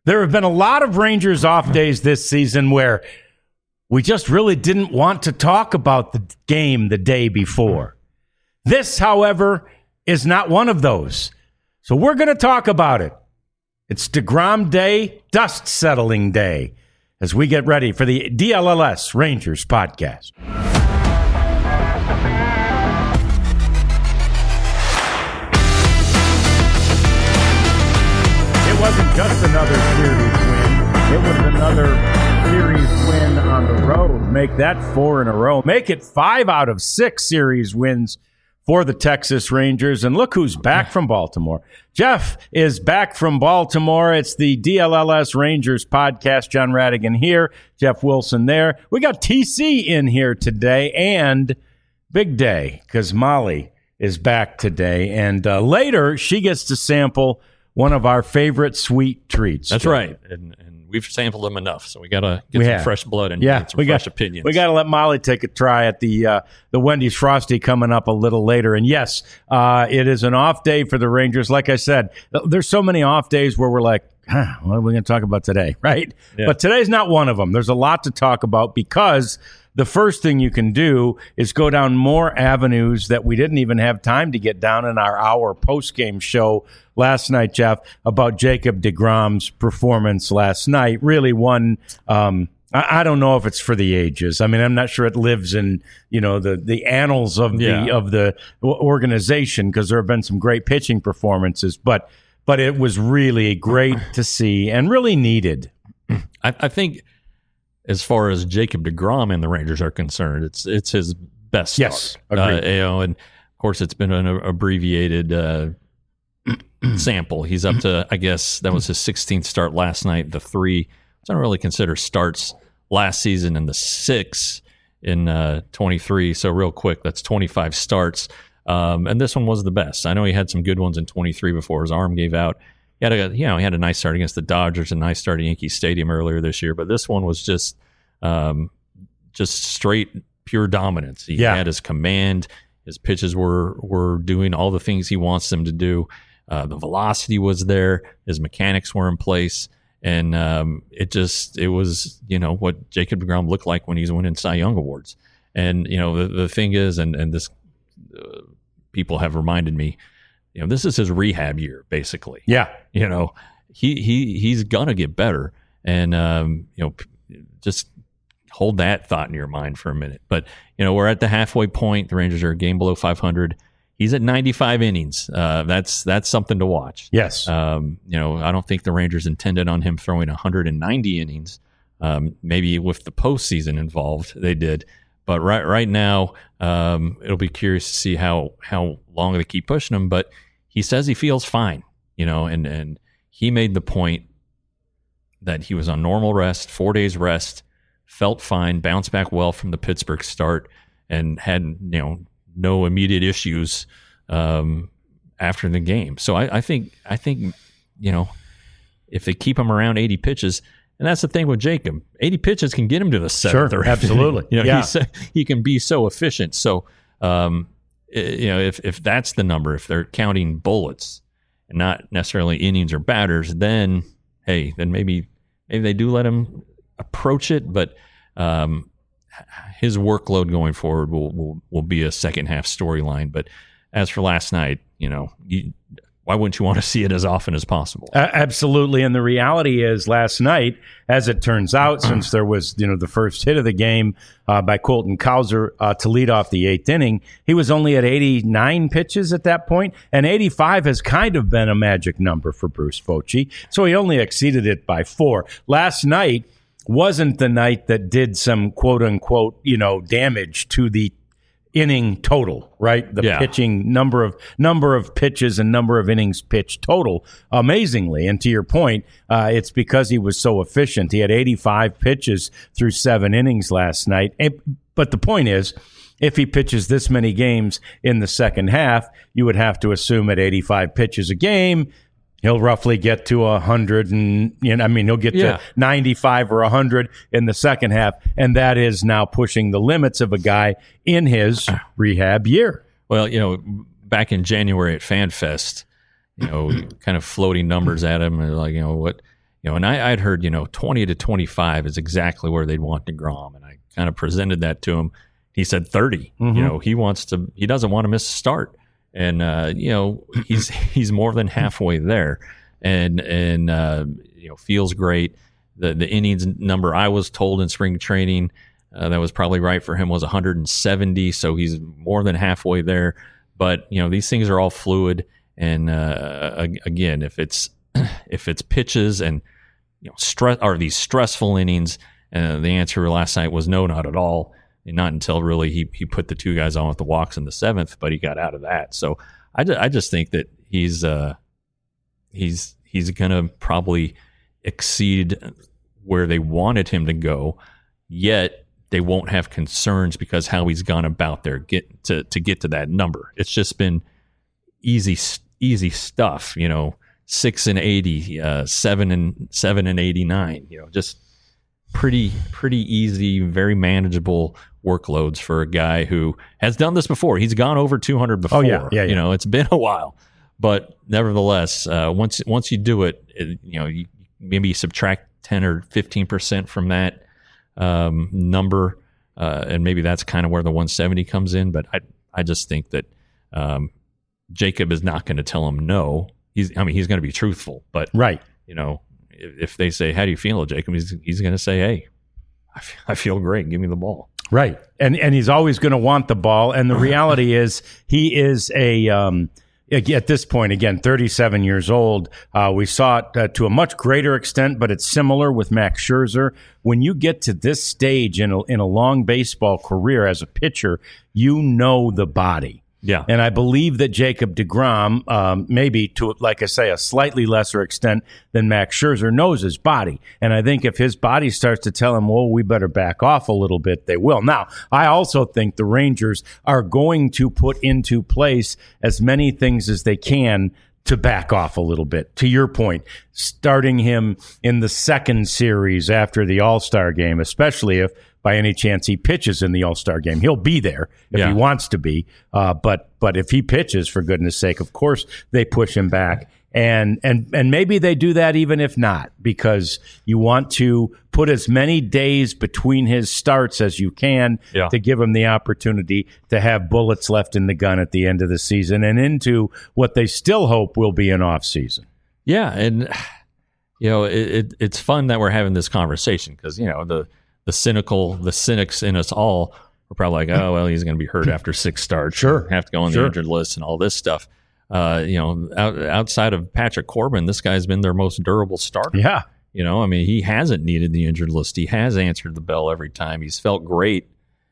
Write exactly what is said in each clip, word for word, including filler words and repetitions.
There have been a lot of Rangers off days this season where we just really didn't want to talk about the game the day before. This, however, is not one of those. So we're going to talk about it. It's DeGrom Day, dust settling day, as we get ready for the D L L S Rangers podcast. It wasn't just another series win. It was another series win on the road. Make that four in a row. Make it five out of six series wins for the Texas Rangers. And look who's back from Baltimore. Jeff is back from Baltimore. It's the D L L S Rangers podcast. John Radigan here, Jeff Wilson there. We got T C in here today, and big day because Molly is back today. And uh, later, she gets to sample one of our favorite sweet treats. That's Jeff. right. And, and we've sampled them enough, so we got to get we some have. fresh blood and yeah, get some we fresh got, opinions. We got to let Molly take a try at the uh, the Wendy's Frosty coming up a little later. And yes, uh, it is an off day for the Rangers. Like I said, there's so many off days where we're like, huh, what are we going to talk about today, right? Yeah. But today's not one of them. There's a lot to talk about because the first thing you can do is go down more avenues that we didn't even have time to get down in our hour post-game show last night, Jeff, about Jacob deGrom's performance last night. Really one, um, I, I don't know if it's for the ages. I mean, I'm not sure it lives in, you know, the, the annals of Yeah. the of the organization because there have been some great pitching performances, but but it was really great to see and really needed. I, I think as far as Jacob deGrom and the Rangers are concerned, it's it's his best start. Yes, Uh, agreed. you know, and of course it's been an abbreviated uh, sample. He's up to, I guess that was his sixteenth start last night. The three, which I don't really consider starts last season, and the six in uh, twenty-three. So real quick, that's twenty-five starts. Um, and this one was the best. I know he had some good ones in twenty-three before his arm gave out. He had a, you know, he had a nice start against the Dodgers, a nice start at Yankee Stadium earlier this year. But this one was just, um, just straight pure dominance. He Yeah. had his command. His pitches were were doing all the things he wants them to do. Uh, the velocity was there. His mechanics were in place, and um, it just it was you know what Jacob deGrom looked like when he's winning Cy Young awards. And you know the the thing is, and and this uh, people have reminded me, you know, this is his rehab year basically. Yeah. You know, he he he's gonna get better, and um, you know, p- just hold that thought in your mind for a minute. But you know, we're at the halfway point. The Rangers are a game below five hundred. He's at ninety-five innings. Uh, that's that's something to watch. Yes. Um, you know, I don't think the Rangers intended on him throwing one hundred ninety innings. Um, maybe with the postseason involved, they did. But right right now, um, it'll be curious to see how how long they keep pushing him. But he says he feels fine. You know, and and he made the point that he was on normal rest, four days rest, felt fine, bounced back well from the Pittsburgh start, and had you know no immediate issues um, after the game. So I, I think I think you know if they keep him around eighty pitches, and that's the thing with Jacob, eighty pitches can get him to the seventh. Sure, or eighth. absolutely. You know, Yeah. he's, he can be so efficient. So um, you know if if that's the number, if they're counting bullets and not necessarily innings or batters, then hey, then maybe maybe they do let him approach it, but um, his workload going forward will, will will be a second half storyline. But as for last night, you know, you, why wouldn't you want to see it as often as possible? Uh, absolutely. And the reality is last night, as it turns out, since there was, you know, the first hit of the game uh, by Colton Cowser uh, to lead off the eighth inning, he was only at eighty-nine pitches at that point, and eighty-five has kind of been a magic number for Bruce Bochy. So he only exceeded it by four. Last night wasn't the night that did some quote unquote, you know, damage to the inning total, right? The Yeah. pitching number of number of pitches and number of innings pitched total, amazingly. And to your point, uh, it's because he was so efficient. He had eighty-five pitches through seven innings last night. And, but the point is, if he pitches this many games in the second half, you would have to assume at eighty-five pitches a game, he'll roughly get to one hundred, and you know, I mean, he'll get Yeah. to ninety-five or one hundred in the second half, and that is now pushing the limits of a guy in his rehab year. Well, you know, back in January at FanFest, you know, kind of floating numbers at him, and like, you know, what, You know, and I, I'd heard, you know, twenty to twenty-five is exactly where they'd want DeGrom. And I kind of presented that to him. He said thirty. Mm-hmm. You know, he wants to, he doesn't want to miss a start. And, uh, you know, he's, he's more than halfway there and, and, uh, you know, feels great. The, the innings number I was told in spring training, uh, that was probably right for him, was one hundred seventy. So he's more than halfway there. But, you know, these things are all fluid. And, uh, again, if it's, if it's pitches and, you know, stress, are these stressful innings? Uh, the answer last night was no, not at all. And not until really he he put the two guys on with the walks in the seventh, but he got out of that. So I, I just think that he's uh, he's he's gonna probably exceed where they wanted him to go. Yet they won't have concerns because how he's gone about their get to to get to that number. It's just been easy easy stuff, you know. Six and eighty, uh, seven and seven and eighty-nine. You know, just pretty pretty easy, very manageable workloads for a guy who has done this before. He's gone over two hundred before. Oh yeah, yeah, yeah. You know, it's been a while, but nevertheless, uh, once once you do it, it you know, you maybe subtract ten or fifteen percent from that um, number, uh, and maybe that's kind of where the one seventy comes in. But I I just think that um, Jacob is not going to tell him no. He's, I mean, he's going to be truthful, but right. You know, if, if they say, "How do you feel, Jacob?" He's he's going to say, "Hey, I, f- I feel great. Give me the ball." Right, and and he's always going to want the ball. And the reality is, he is a um, at this point again, thirty-seven years old. Uh, we saw it uh, to a much greater extent, but it's similar with Max Scherzer. When you get to this stage in a, in a long baseball career as a pitcher, you know the body. Yeah. And I believe that Jacob deGrom, um, maybe to, like I say, a slightly lesser extent than Max Scherzer, knows his body. And I think if his body starts to tell him, well, we better back off a little bit, they will. Now, I also think the Rangers are going to put into place as many things as they can to back off a little bit. To your point, starting him in the second series after the All-Star game, especially if by any chance he pitches in the All-Star game. He'll be there if yeah. he wants to be. Uh, but but if he pitches, for goodness sake, of course they push him back. And and and maybe they do that even if not, because you want to put as many days between his starts as you can yeah. to give him the opportunity to have bullets left in the gun at the end of the season and into what they still hope will be an off season. Yeah, and you know it, it, it's fun that we're having this conversation because you know the the cynical the cynics in us all are probably like, oh well, he's going to be hurt after six starts, sure, have to go on sure. the injured list and all this stuff. Uh, you know, out, outside of Patrick Corbin, this guy's been their most durable starter. Yeah. You know, I mean, he hasn't needed the injured list. He has answered the bell every time. He's felt great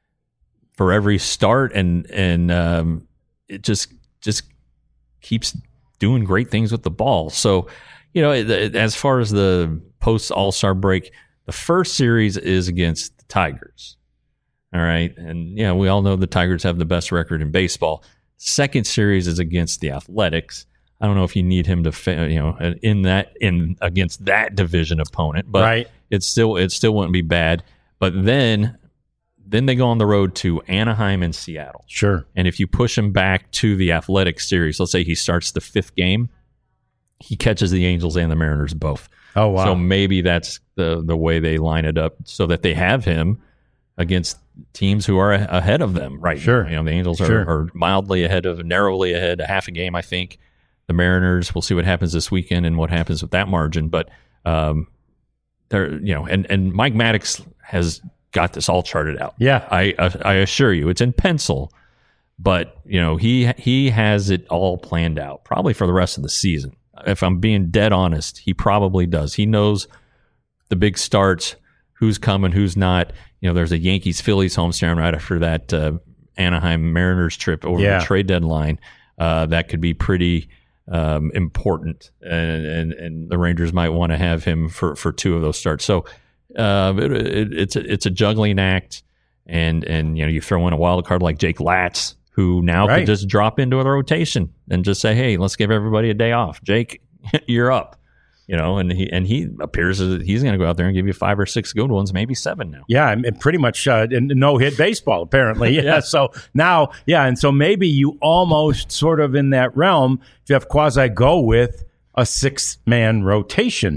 for every start, and and um, it just just keeps doing great things with the ball. So, you know, it, it, as far as the post All-Star break, the first series is against the Tigers. All right, and yeah, we all know the Tigers have the best record in baseball. Second series is against the Athletics. I don't know if you need him to, you know, in that in against that division opponent, but right. it's still it still wouldn't be bad. But then, then they go on the road to Anaheim and Seattle. Sure. And if you push him back to the Athletics series, let's say he starts the fifth game, he catches the Angels and the Mariners both. Oh wow! So maybe that's the the way they line it up so that they have him against teams who are ahead of them, right? Sure. You know, the Angels are, sure. are mildly ahead of, narrowly ahead, a half a game, I think. The Mariners, we'll see what happens this weekend and what happens with that margin. But um, they're, you know, and, and Mike Maddox has got this all charted out. Yeah, I I assure you, it's in pencil. But you know, he he has it all planned out, probably for the rest of the season. If I'm being dead honest, he probably does. He knows the big starts, who's coming, who's not. You know, there's a Yankees-Phillies homestand right after that uh, Anaheim Mariners trip over yeah. the trade deadline. Uh, that could be pretty um, important, and, and and the Rangers might want to have him for, for two of those starts. So uh, it, it, it's a, it's a juggling act, and and you know you throw in a wild card like Jake Latz, who now right. could just drop into the rotation and just say, hey, let's give everybody a day off. Jake, you're up. You know, and he and he appears as he's going to go out there and give you five or six good ones, maybe seven now. Yeah, and pretty much uh, no-hit baseball, apparently. Yeah, yeah. So now, yeah, and so maybe you almost sort of in that realm, Jeff Quasi, go with a six-man rotation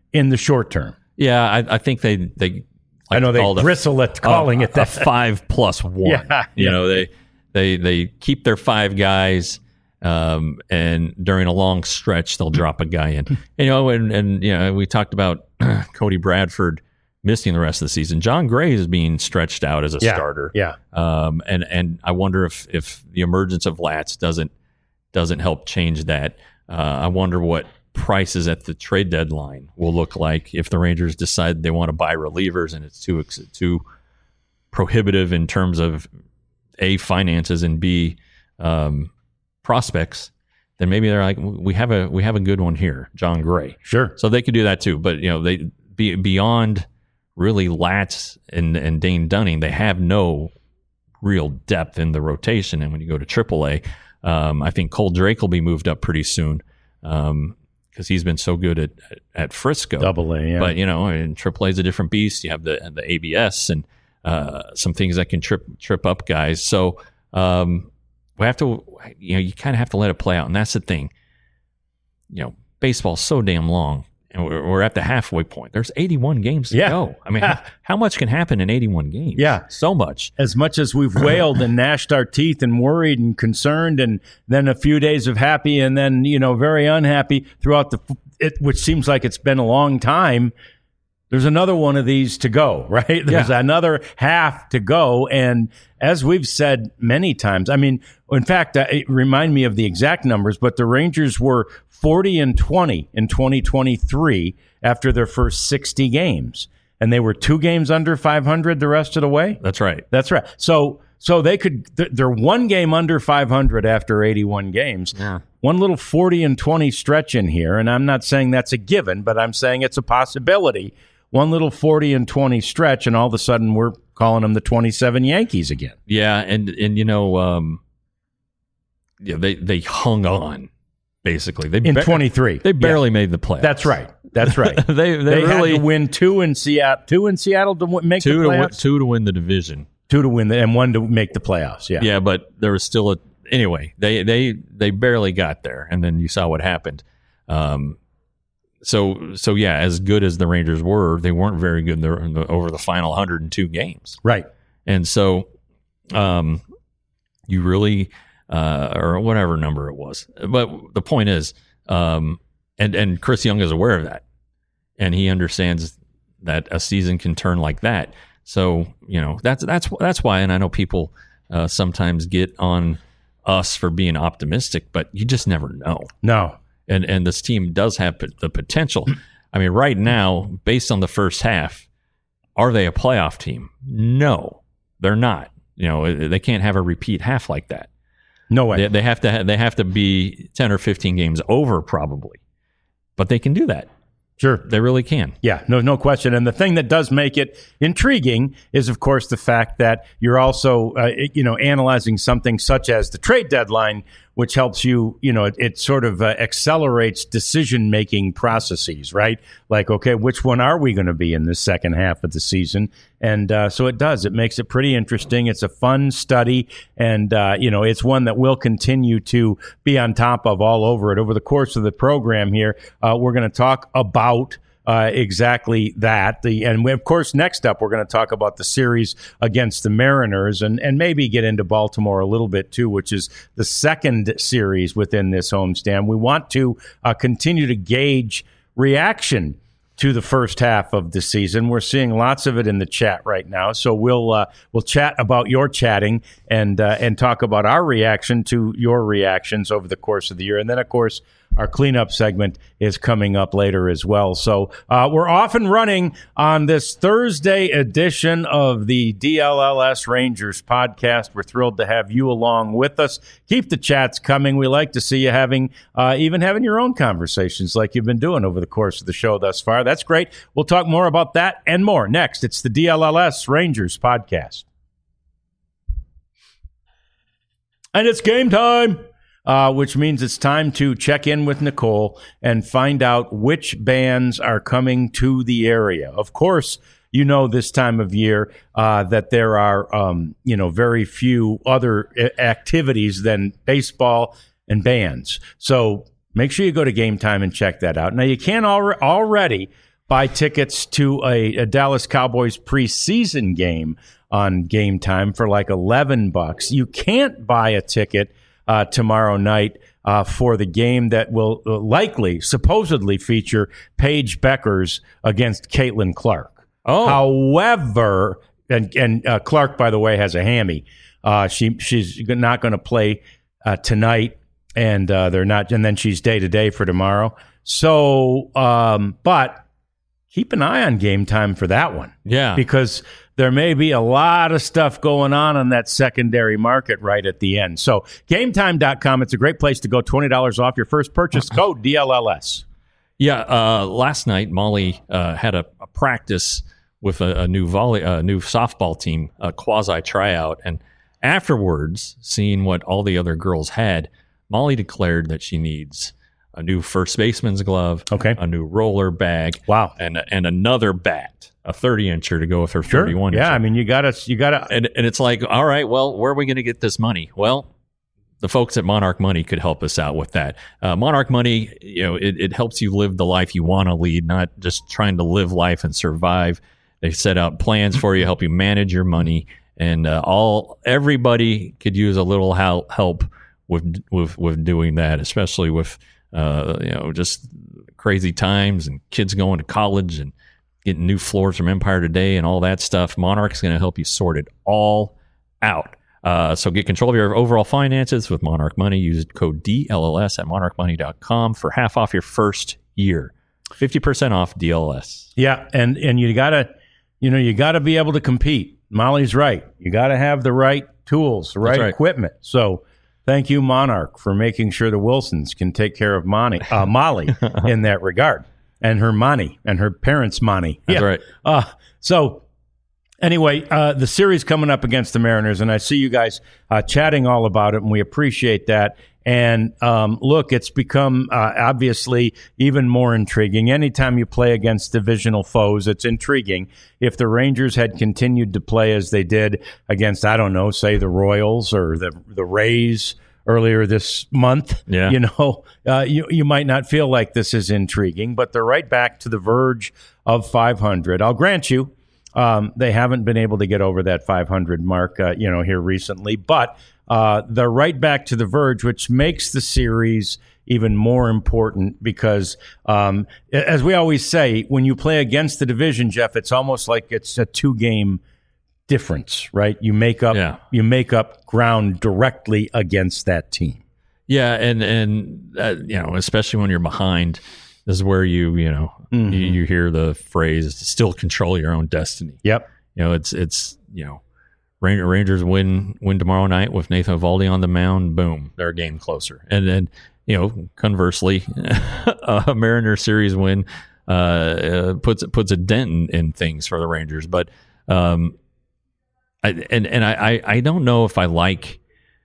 in the short term. Yeah, I, I think they they. Like I know they bristle at calling a, it that. A five plus one. Yeah, you yeah. know, they they they keep their five guys, um, and during a long stretch they'll drop a guy in. You know, and and you know we talked about Cody Bradford missing the rest of the season. John Gray is being stretched out as a yeah, starter. Yeah, um, and and I wonder if if the emergence of Latz doesn't doesn't help change that. Uh, I wonder what prices at the trade deadline will look like if the Rangers decide they want to buy relievers and it's too too prohibitive in terms of A, finances, and B, um, prospects. Then maybe they're like, we have a we have a good one here, John Gray. Sure. So they could do that too. But you know, they be beyond really Latz and and Dane Dunning, they have no real depth in the rotation. And when you go to triple A, um, I think Cole Drake will be moved up pretty soon. Um, because he's been so good at, at, at Frisco. Double A, yeah. But, you know, and triple A is a different beast. You have the the A B S and uh, some things that can trip trip up guys. So um, we have to, you know, you kind of have to let it play out. And that's the thing. You know, baseball's so damn long. And we're, we're at the halfway point. There's eighty-one games to yeah. go. I mean, how, how much can happen in eighty-one games? Yeah. So much. As much as we've wailed and gnashed our teeth and worried and concerned, and then a few days of happy and then, you know, very unhappy throughout the, it, which seems like it's been a long time. There's another one of these to go, right? There's yeah. another half to go. And as we've said many times, I mean, in fact, uh, it remind me of the exact numbers, but the Rangers were forty and twenty in twenty twenty-three after their first sixty games. And they were two games under five hundred the rest of the way. That's right. That's right. So so they could, they're one game under five hundred after eighty-one games. Yeah. One little forty and twenty stretch in here. And I'm not saying that's a given, but I'm saying it's a possibility. One little forty and twenty stretch, and all of a sudden we're calling them the twenty-seven Yankees again. Yeah. And, and you know, um, yeah, they, they hung on. Basically, they in ba- twenty-three, they barely yeah. made the playoffs. That's right. That's right. they they, they really had to win two in Seattle, two in Seattle to w- make two the to win, playoffs. two to win the division, two to win the, and one to make the playoffs. Yeah, yeah. But there was still a anyway. They they they barely got there, and then you saw what happened. Um, so so yeah, as good as the Rangers were, they weren't very good in the, in the, over the final one hundred two games. Right. And so, um, you really. Uh, or whatever number it was. But the point is, um, and, and Chris Young is aware of that. And he understands that a season can turn like that. So, you know, that's that's that's why, and I know people uh, sometimes get on us for being optimistic, but you just never know. No. And, and this team does have p- the potential. I mean, right now, based on the first half, are they a playoff team? No, they're not. You know, they can't have a repeat half like that. No way. They, they have to. Ha- they have to be ten or fifteen games over, probably, but they can do that. Sure, they really can. Yeah, no, no question. And the thing that does make it intriguing is, of course, the fact that you're also, uh, you know, analyzing something such as the trade deadline, which helps you, you know, it, it sort of uh, accelerates decision-making processes, right? Like, okay, which one are we going to be in the second half of the season? And uh, so it does. It makes it pretty interesting. It's a fun study, and, uh, you know, it's one that we'll continue to be on top of all over it. Over the course of the program here, uh, we're going to talk about Uh, exactly that. The and we, of course, next up, we're going to talk about the series against the Mariners and, and maybe get into Baltimore a little bit, too, which is the second series within this homestand. We want to uh, continue to gauge reaction to the first half of the season. We're seeing lots of it in the chat right now, so we'll uh, we'll chat about your chatting and uh, and talk about our reaction to your reactions over the course of the year. And then, of course, our cleanup segment is coming up later as well. So uh, we're off and running on this Thursday edition of the D L L S Rangers podcast. We're thrilled to have you along with us. Keep the chats coming. We like to see you having, uh, even having your own conversations like you've been doing over the course of the show thus far. That's great. We'll talk more about that and more next. It's the D L L S Rangers podcast. And it's game time. Uh, which means it's time to check in with Nicole and find out which bands are coming to the area. Of course, you know this time of year uh, that there are, um, you know, very few other activities than baseball and bands. So make sure you go to Game Time and check that out. Now, you can al- already buy tickets to a, a Dallas Cowboys preseason game on Game Time for like eleven bucks. You can't buy a ticket uh, tomorrow night uh, for the game that will likely, supposedly feature Paige Beckers against Caitlin Clark. Oh. However, and, and uh, Clark, by the way, has a hammy. Uh, she she's not going to play uh, tonight, and uh, they're not. And then she's day to day for tomorrow. So, um, but keep an eye on Game Time for that one. Yeah, because there may be a lot of stuff going on in that secondary market right at the end. So, game time dot com, it's a great place to go. twenty dollars off your first purchase. Code D L L S. Yeah, uh, last night Molly uh, had a, a practice with a, a new volley, a new softball team, a quasi tryout, and afterwards, seeing what all the other girls had, Molly declared that she needs a new first baseman's glove, okay, a new roller bag, wow, and and another bat, a thirty incher to go with her sure. thirty-one incher. Yeah, I mean, you gotta, you gotta, and and it's like, all right, well, where are we going to get this money? Well, the folks at Monarch Money could help us out with that. Uh, Monarch Money, you know, it, it helps you live the life you want to lead, not just trying to live life and survive. They set out plans for you, help you manage your money, and uh, all everybody could use a little help help with with with doing that, especially with uh, you know, just crazy times and kids going to college and getting new floors from Empire Today and all that stuff. Monarch's going to help you sort it all out. Uh, so get control of your overall finances with Monarch Money. Use code D L L S at monarch money dot com for half off your first year. fifty percent off D L S. Yeah, and, and you got to, you know, you got to be able to compete. Molly's right. You got to have the right tools, the right, right equipment. So thank you, Monarch, for making sure the Wilsons can take care of Monty, uh, Molly in that regard, and her money and her parents' money. That's yeah. right. Uh, so anyway, uh, the series coming up against the Mariners, and I see you guys uh, chatting all about it, and we appreciate that. And um, look, it's become uh, obviously even more intriguing. Anytime you play against divisional foes, it's intriguing. If the Rangers had continued to play as they did against, I don't know, say the Royals or the the Rays earlier this month, yeah. you know, uh, you, you might not feel like this is intriguing, but they're right back to the verge of five hundred. I'll grant you, um, they haven't been able to get over that five hundred mark, uh, you know, here recently, but Uh, they're right back to the verge, which makes the series even more important because, um, as we always say, when you play against the division, Jeff, it's almost like it's a two-game difference, right? You make up, yeah. you make up ground directly against that team. Yeah, and and uh, you know, especially when you're behind, this is where you you know Mm-hmm. you, you hear the phrase "still control your own destiny." Yep. You know, it's it's you know. Rangers win win tomorrow night with Nathan Eovaldi on the mound. Boom, they're a game closer. And then, you know, conversely, a Mariners series win uh, uh, puts puts a dent in, in things for the Rangers. But um, I, and and I, I don't know if I like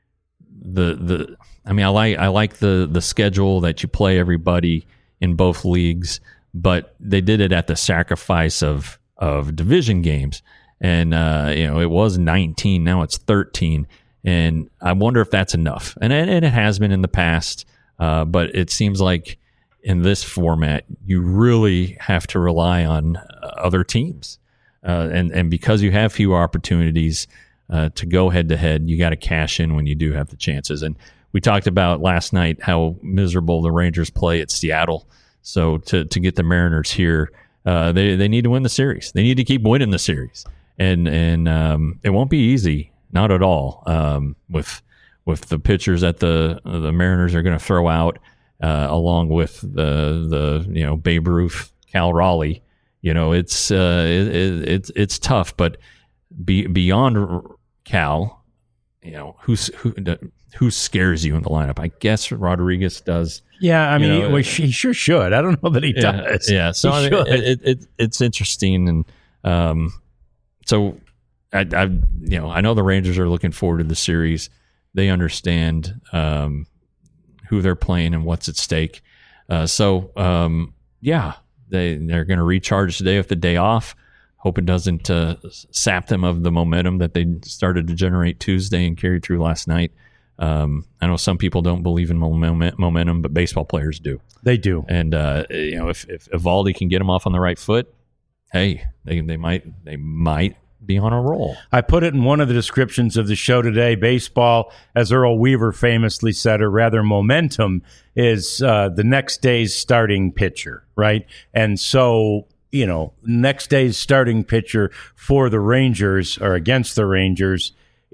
the the. I mean, I like I like the the schedule that you play everybody in both leagues, but they did it at the sacrifice of of division games. And, uh, you know, it was nineteen. Now it's thirteen. And I wonder if that's enough. And, and it has been in the past. Uh, but it seems like in this format, you really have to rely on other teams. Uh, and, and because you have fewer opportunities uh, to go head to head, you got to cash in when you do have the chances. And we talked about last night how miserable the Rangers play at Seattle. So to, to get the Mariners here, uh, they, they need to win the series. They need to keep winning the series. And and um, it won't be easy, not at all. Um, with with the pitchers that the the Mariners are going to throw out, uh, along with the the you know Babe Ruth, Cal Raleigh, you know it's uh, it, it, it's it's tough. But be, beyond Cal, you know who's who who scares you in the lineup? I guess Rodriguez does. Yeah, I mean, you know, well, he sure should. I don't know that he yeah, does. Yeah, so he I mean, it, it, it it's interesting and. Um, So, I, I, you know, I know the Rangers are looking forward to the series. They understand um, who they're playing and what's at stake. Uh, so, um, yeah, they they're going to recharge today with the day off. Hope it doesn't uh, sap them of the momentum that they started to generate Tuesday and carried through last night. Um, I know some people don't believe in moment, momentum, but baseball players do. They do. And uh, you know, if if Eovaldi can get them off on the right foot, hey, they they might they might be on a roll. I put it in one of the descriptions of the show today. Baseball, as Earl Weaver famously said, or rather momentum, is uh, the next day's starting pitcher, right? And so, you know, next day's starting pitcher for the Rangers or against the Rangers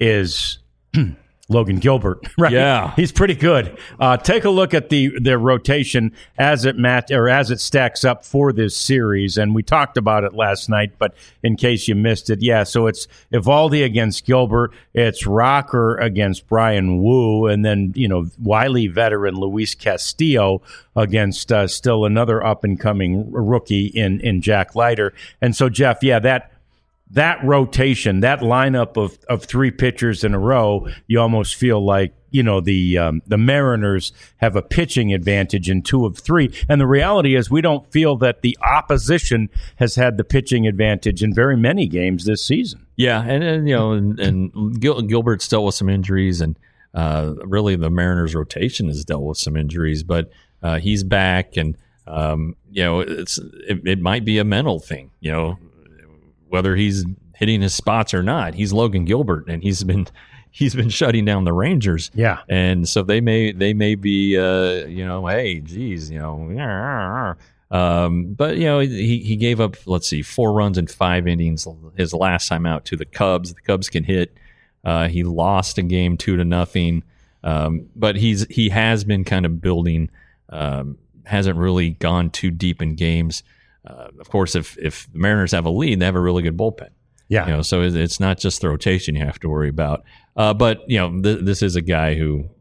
is Logan Gilbert, right? Yeah, he's pretty good. Uh, take a look at the the rotation as it mat or as it stacks up for this series, and we talked about it last night. But in case you missed it, yeah. So it's Eovaldi against Gilbert, it's Rocker against Brian Wu, and then you know Wiley veteran Luis Castillo against uh, still another up and coming rookie in in Jack Leiter. And so Jeff, yeah, that. That rotation, that lineup of, of three pitchers in a row, you almost feel like, you know, the um, the Mariners have a pitching advantage in two of three. And the reality is we don't feel that the opposition has had the pitching advantage in very many games this season. Yeah, and, and you know, and, and Gil, Gilbert's dealt with some injuries, and uh, really the Mariners rotation has dealt with some injuries, but uh, he's back, and, um, you know, it's it, it might be a mental thing, you know, whether he's hitting his spots or not. He's Logan Gilbert, and he's been he's been shutting down the Rangers. Yeah, and so they may they may be uh, you know, hey, geez, you know, um, but you know he he gave up, let's see, four runs in five innings his last time out to the Cubs. The Cubs can hit. Uh, he lost a game two to nothing, um, but he's he has been kind of building. Um, hasn't really gone too deep in games. Uh, of course, if if the Mariners have a lead, they have a really good bullpen. Yeah, you know, so it's not just the rotation you have to worry about. Uh, but you know, th- this is a guy who,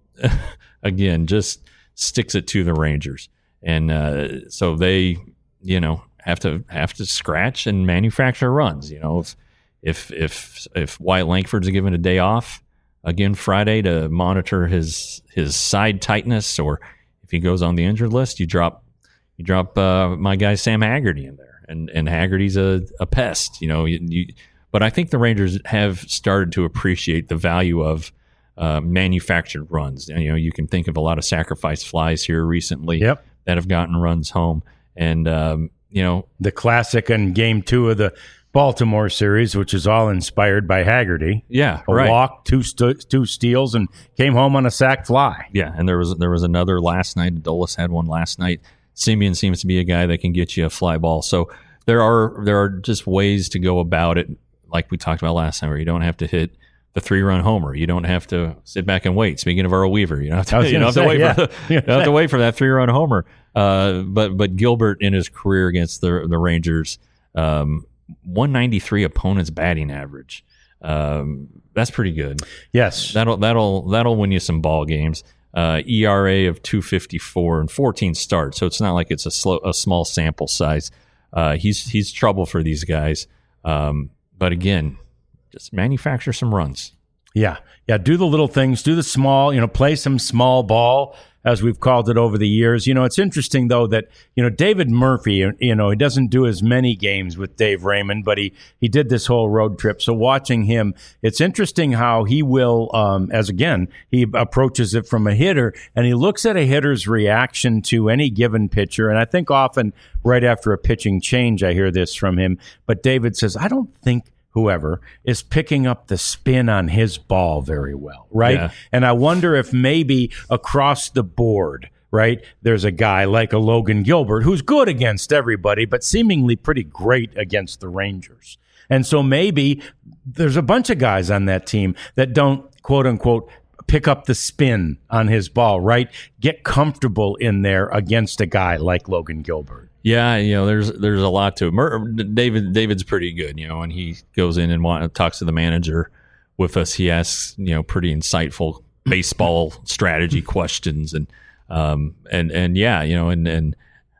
again, just sticks it to the Rangers, and uh, so they, you know, have to have to scratch and manufacture runs. You know, if if if if Wyatt Langford's given a day off again Friday to monitor his his side tightness, or if he goes on the injured list, you drop. You drop uh, my guy Sam Haggerty in there, and and Haggerty's a, a pest, you know. You, you, but I think the Rangers have started to appreciate the value of uh, manufactured runs. And, you know, you can think of a lot of sacrifice flies here recently yep. that have gotten runs home, and um, you know, the classic in Game Two of the Baltimore series, which is all inspired by Haggerty. Yeah, a right. walk, two st- two steals, and came home on a sac fly. Yeah, and there was there was another last night. Adolis had one last night. Simeon seems to be a guy that can get you a fly ball. So there are there are just ways to go about it, like we talked about last time, where you don't have to hit the three-run homer. You don't have to sit back and wait. Speaking of Earl Weaver, you don't have to, you don't have say, to wait yeah. for the, you don't have to wait for that three-run homer. Uh, but but Gilbert in his career against the the Rangers, um, one ninety-three opponent's batting average. Um, that's pretty good. Yes, that'll that'll that'll win you some ball games. Uh, E R A of two fifty-four and fourteen starts, so it's not like it's a slow, a small sample size. Uh, he's he's trouble for these guys, um, but again, just manufacture some runs. Yeah, yeah. Do the little things. Do the small. You know, play some small ball, as we've called it over the years. You know, it's interesting though that you know David Murphy. You know, he doesn't do as many games with Dave Raymond, but he he did this whole road trip. So watching him, it's interesting how he will, um, as again, he approaches it from a hitter, and he looks at a hitter's reaction to any given pitcher. And I think often right after a pitching change, I hear this from him. But David says, I don't think whoever is picking up the spin on his ball very well, right? Yeah. And I wonder if maybe across the board, right, there's a guy like a Logan Gilbert who's good against everybody, but seemingly pretty great against the Rangers. And so maybe there's a bunch of guys on that team that don't, quote unquote, pick up the spin on his ball, right? Get comfortable in there against a guy like Logan Gilbert. Yeah, you know, there's there's a lot to it. David David's pretty good, you know, and he goes in and want, talks to the manager with us. He asks, you know, pretty insightful baseball strategy questions, and um and and yeah, you know, and and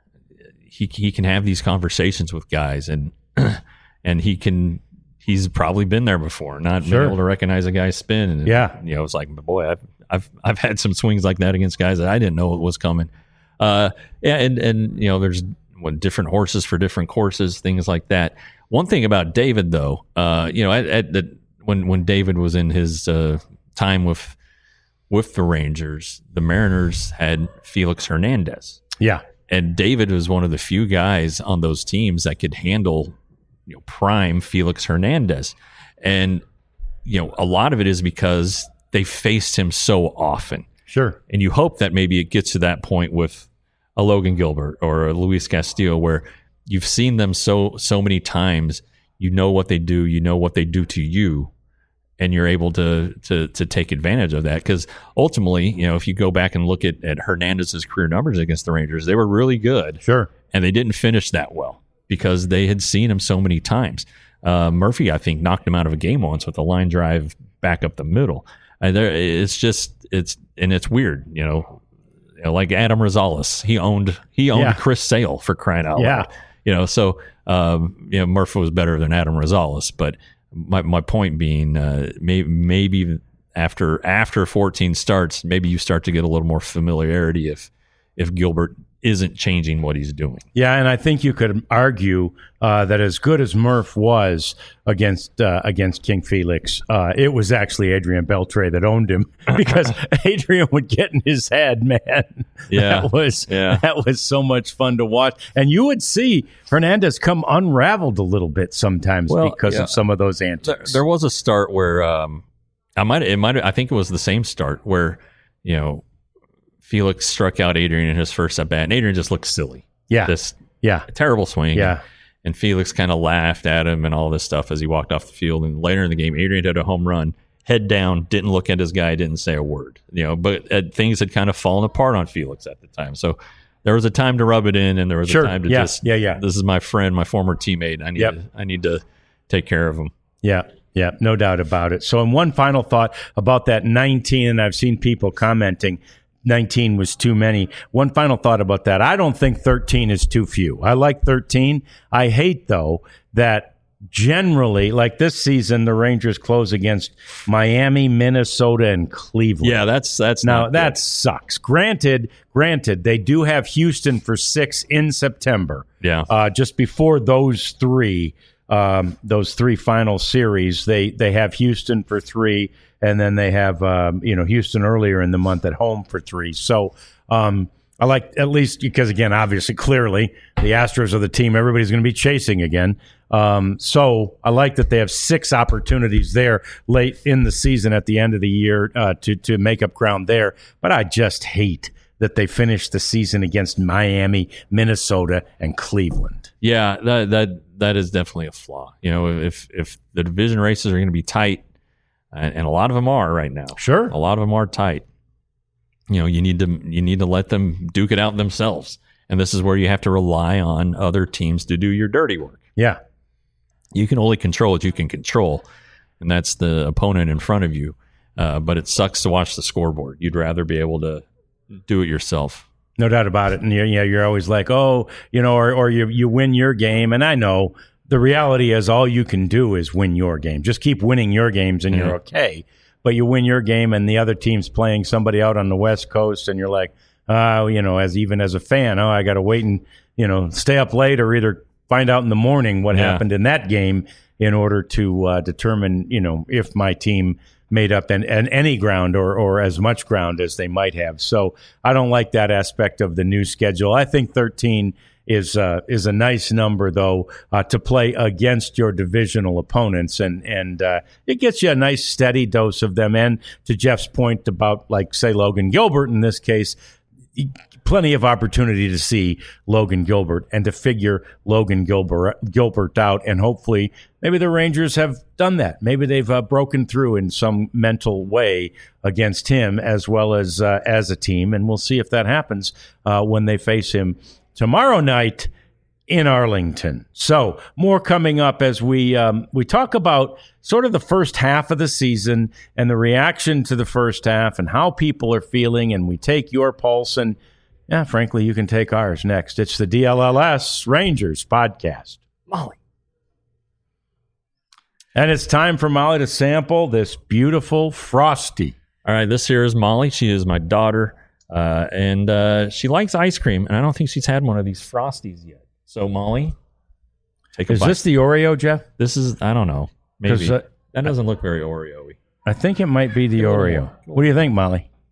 he he can have these conversations with guys, and and he can he's probably been there before, not sure. being able to recognize a guy's spin, and yeah, you know, it's like, boy, I've I've I've had some swings like that against guys that I didn't know it was coming. Uh, yeah, and and you know, there's what, different horses for different courses, things like that. One thing about David, though, uh, you know, at, at the when when David was in his uh, time with with the Rangers, the Mariners had Felix Hernandez. Yeah. And David was one of the few guys on those teams that could handle, you know, prime Felix Hernandez. And, you know, a lot of it is because they faced him so often. Sure. And you hope that maybe it gets to that point with a Logan Gilbert or a Luis Castillo where you've seen them so so many times, you know what they do, you know what they do to you, and you're able to to to take advantage of that. Because ultimately, you know, if you go back and look at, at Hernandez's career numbers against the Rangers, they were really good. Sure. And they didn't finish that well because they had seen him so many times. Uh, Murphy, I think, knocked him out of a game once with a line drive back up the middle. And there, it's just it's and it's weird, you know, you know like Adam Rosales, he owned he owned yeah. Chris Sale for crying out yeah. loud, you know. So um, you know, Murphy was better than Adam Rosales, but my my point being, uh, may, maybe after after fourteen starts, maybe you start to get a little more familiarity if if Gilbert isn't changing what he's doing. Yeah, and I think you could argue uh, that as good as Murph was against uh, against King Felix, uh, it was actually Adrian Beltre that owned him because Adrian would get in his head, man. Yeah, that was yeah. that was so much fun to watch, and you would see Hernandez come unraveled a little bit sometimes well, because yeah. of some of those antics. There, there was a start where um, I might it might I think it was the same start where you know. Felix struck out Adrian in his first at bat, and Adrian just looked silly. Yeah, this yeah, terrible swing. Yeah, and, and Felix kind of laughed at him and all this stuff as he walked off the field. And later in the game, Adrian had a home run, head down, didn't look at his guy, didn't say a word. You know, but uh, things had kind of fallen apart on Felix at the time. So there was a time to rub it in, and there was sure. a time to yeah. just, yeah, yeah. This is my friend, my former teammate. I need, yep. to, I need to take care of him. Yeah. Yeah, no doubt about it. So, and one final thought about that nineteen, and I've seen people commenting. nineteen was too many. One final thought about that. I don't think thirteen is too few. I like thirteen. I hate, though, that generally, like this season, the Rangers close against Miami, Minnesota, and Cleveland. Yeah, that's that's now not that good. sucks. Granted, granted, they do have Houston for six in September. Yeah, uh, just before those three, um, those three final series, they they have Houston for three. And then they have, um, you know, Houston earlier in the month at home for three. So um, I like, at least because, again, obviously, clearly, the Astros are the team everybody's going to be chasing again. Um, so I like that they have six opportunities there late in the season at the end of the year uh, to, to make up ground there. But I just hate that they finished the season against Miami, Minnesota, and Cleveland. Yeah, that that that is definitely a flaw. You know, if if the division races are going to be tight, and, and a lot of them are right now. Sure, a lot of them are tight. You know, you need to you need to let them duke it out themselves, and this is where you have to rely on other teams to do your dirty work. Yeah, you can only control what you can control, and that's the opponent in front of you. Uh, but it sucks to watch the scoreboard. You'd rather be able to do it yourself. No doubt about it. And you, yeah, you're always like, oh, you know, or, or you you win your game. And I know the reality is all you can do is win your game. Just keep winning your games and mm-hmm. you're okay. But you win your game and the other team's playing somebody out on the West Coast and you're like, oh, you know, as even as a fan, oh, I got to wait and, you know, stay up late or either find out in the morning what yeah. happened in that game in order to uh, determine, you know, if my team made up and, and any ground or, or as much ground as they might have. So I don't like that aspect of the new schedule. I think thirteen is uh, is a nice number, though, uh, to play against your divisional opponents. And, and uh, it gets you a nice steady dose of them. And to Jeff's point about, like, say, Logan Gilbert in this case, plenty of opportunity to see Logan Gilbert and to figure Logan Gilbert, Gilbert out. And hopefully maybe the Rangers have done that. Maybe they've uh, broken through in some mental way against him as well as uh, as a team. And we'll see if that happens uh, when they face him tomorrow night in Arlington. So more coming up as we um, we talk about sort of the first half of the season and the reaction to the first half and how people are feeling. And we take your pulse and, yeah, frankly, you can take ours next. It's the D L L S Rangers podcast. Molly. And it's time for Molly to sample this beautiful Frosty. All right, this here is Molly. She is my daughter, uh, and uh, she likes ice cream, and I don't think she's had one of these Frosties yet. So, Molly, take a Is bite. this the Oreo, Jeff? This is, I don't know. Maybe. Uh, that doesn't look very Oreo-y. I think it might be the Oreo. What do you think, Molly?